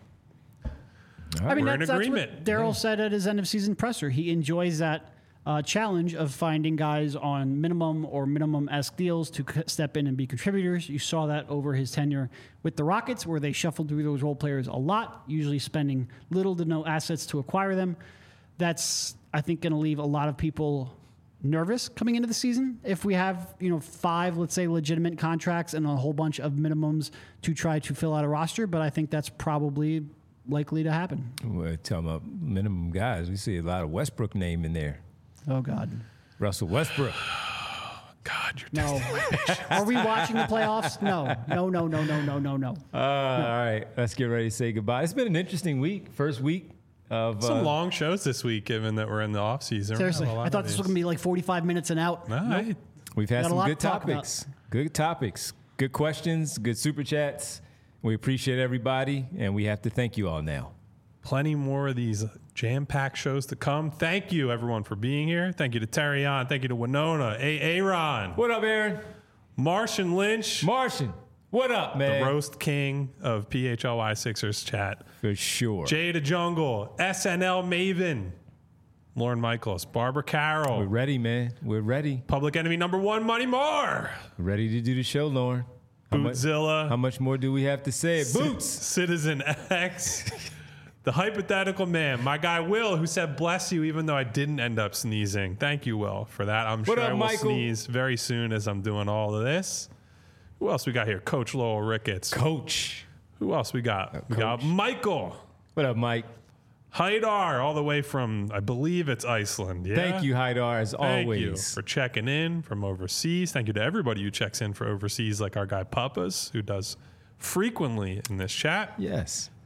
I mean, We're in that's, that's agreement. what Daryl said at his end of season presser. He enjoys that uh, challenge of finding guys on minimum or minimum-esque deals to c- step in and be contributors. You saw that over his tenure with the Rockets, where they shuffled through those role players a lot, usually spending little to no assets to acquire them. That's, I think, going to leave a lot of people nervous coming into the season if we have, you know, five, let's say, legitimate contracts and a whole bunch of minimums to try to fill out a roster. But I think that's probably likely to happen. We're talking about minimum guys. We see a lot of Westbrook name in there. Oh, God. Russell Westbrook. God, you're No. Are we watching the playoffs? No. No, no, no, no, no, no, no. Uh, All right, let's get ready to say goodbye. It's been an interesting week. First week of some uh, long shows this week, given that we're in the off season. Seriously. I thought this was going to be like forty-five minutes and out. Nah, Nope. We've had Got a some lot good to talk about. topics. Good topics. Good questions. Good super chats. We appreciate everybody, and we have to thank you all now. plenty more of these jam-packed shows to come. Thank you, everyone, for being here. Thank you to Terry on. Thank you to Winona, A. Aaron, What up, Aaron? Martian Lynch, Martian. What up, man? the roast king of P H L Y Sixers chat. For sure. Jay the Jungle, S N L Maven, Lauren Michaels, Barbara We're Carroll, ready, man. We're ready. Public Enemy number one, Money Moore, Ready to do the show, Lauren. How much, Bootzilla, how much more do we have to say? Boots. Citizen X, the hypothetical man, my guy Will, who said bless you even though I didn't end up sneezing. Thank you, Will, for that. I'm What sure up, I will Michael? sneeze very soon as I'm doing all of this. Who else we got here? Coach Lowell Ricketts. Coach. Who else we got? We got Michael What up, Mike? Haidar, all the way from, I believe it's Iceland. Yeah? Thank you, Haidar, as Thank always. you for checking in from overseas. Thank you to everybody who checks in for overseas, like our guy Papas, who does frequently in this chat. Yes.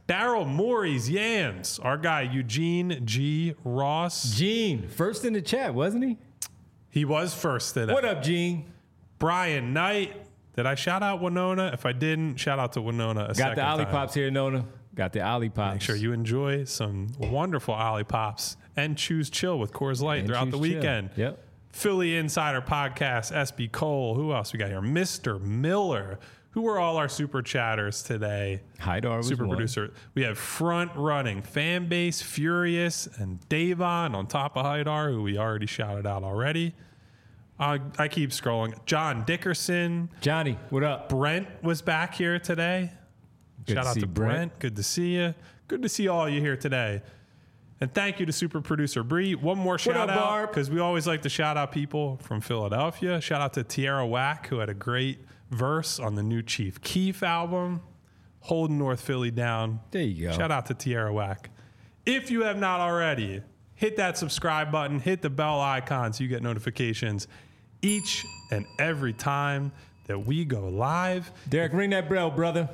Daryl Morey's Yams. Our guy, Eugene G. Ross. Gene, first in the chat, wasn't he? He was first today. What up, Gene? Brian Knight. Did I shout out Winona? If I didn't, shout out to Winona a Got second the Ollie time. Pops here, Nona. Got the Ollie Pops. Make sure you enjoy some wonderful Ollie Pops and choose chill with Coors Light And throughout the choose chill. weekend. Yep. Philly Insider Podcast, S B Cole. Who else we got here? Mister Miller. Who were all our super chatters today? Haidar was Super one. producer. We have front running fan base, Furious, and Davon on top of Haidar, who we already shouted out already. Uh, I keep scrolling. John Dickerson. Johnny, what up? Brent was back here today. Good Shout to out see to Brent. Brent. Good to see you. Good to see all you here today. And thank you to super producer Bree. One more shout up, out Barb? because we always like to shout out people from Philadelphia. Shout out to Tierra Whack, who had a great verse on the new Chief Keef album, holding North Philly down. There you go. Shout out to Tierra Whack. If you have not already, hit that subscribe button, hit the bell icon so you get notifications each and every time that we go live. Derek, ring that bell, brother.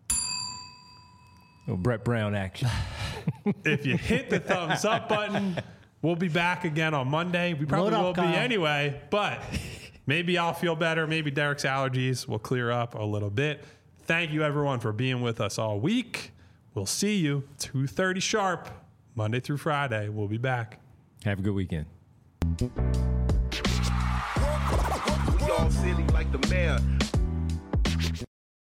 Oh, Brett Brown action. If you hit the thumbs up button, we'll be back again on Monday. We probably Load up, will be Kyle. anyway, but maybe I'll feel better. Maybe Derek's allergies will clear up a little bit. Thank you, everyone, for being with us all week. We'll see you two thirty sharp, Monday through Friday. We'll be back. Have a good weekend. We all silly like the mayor.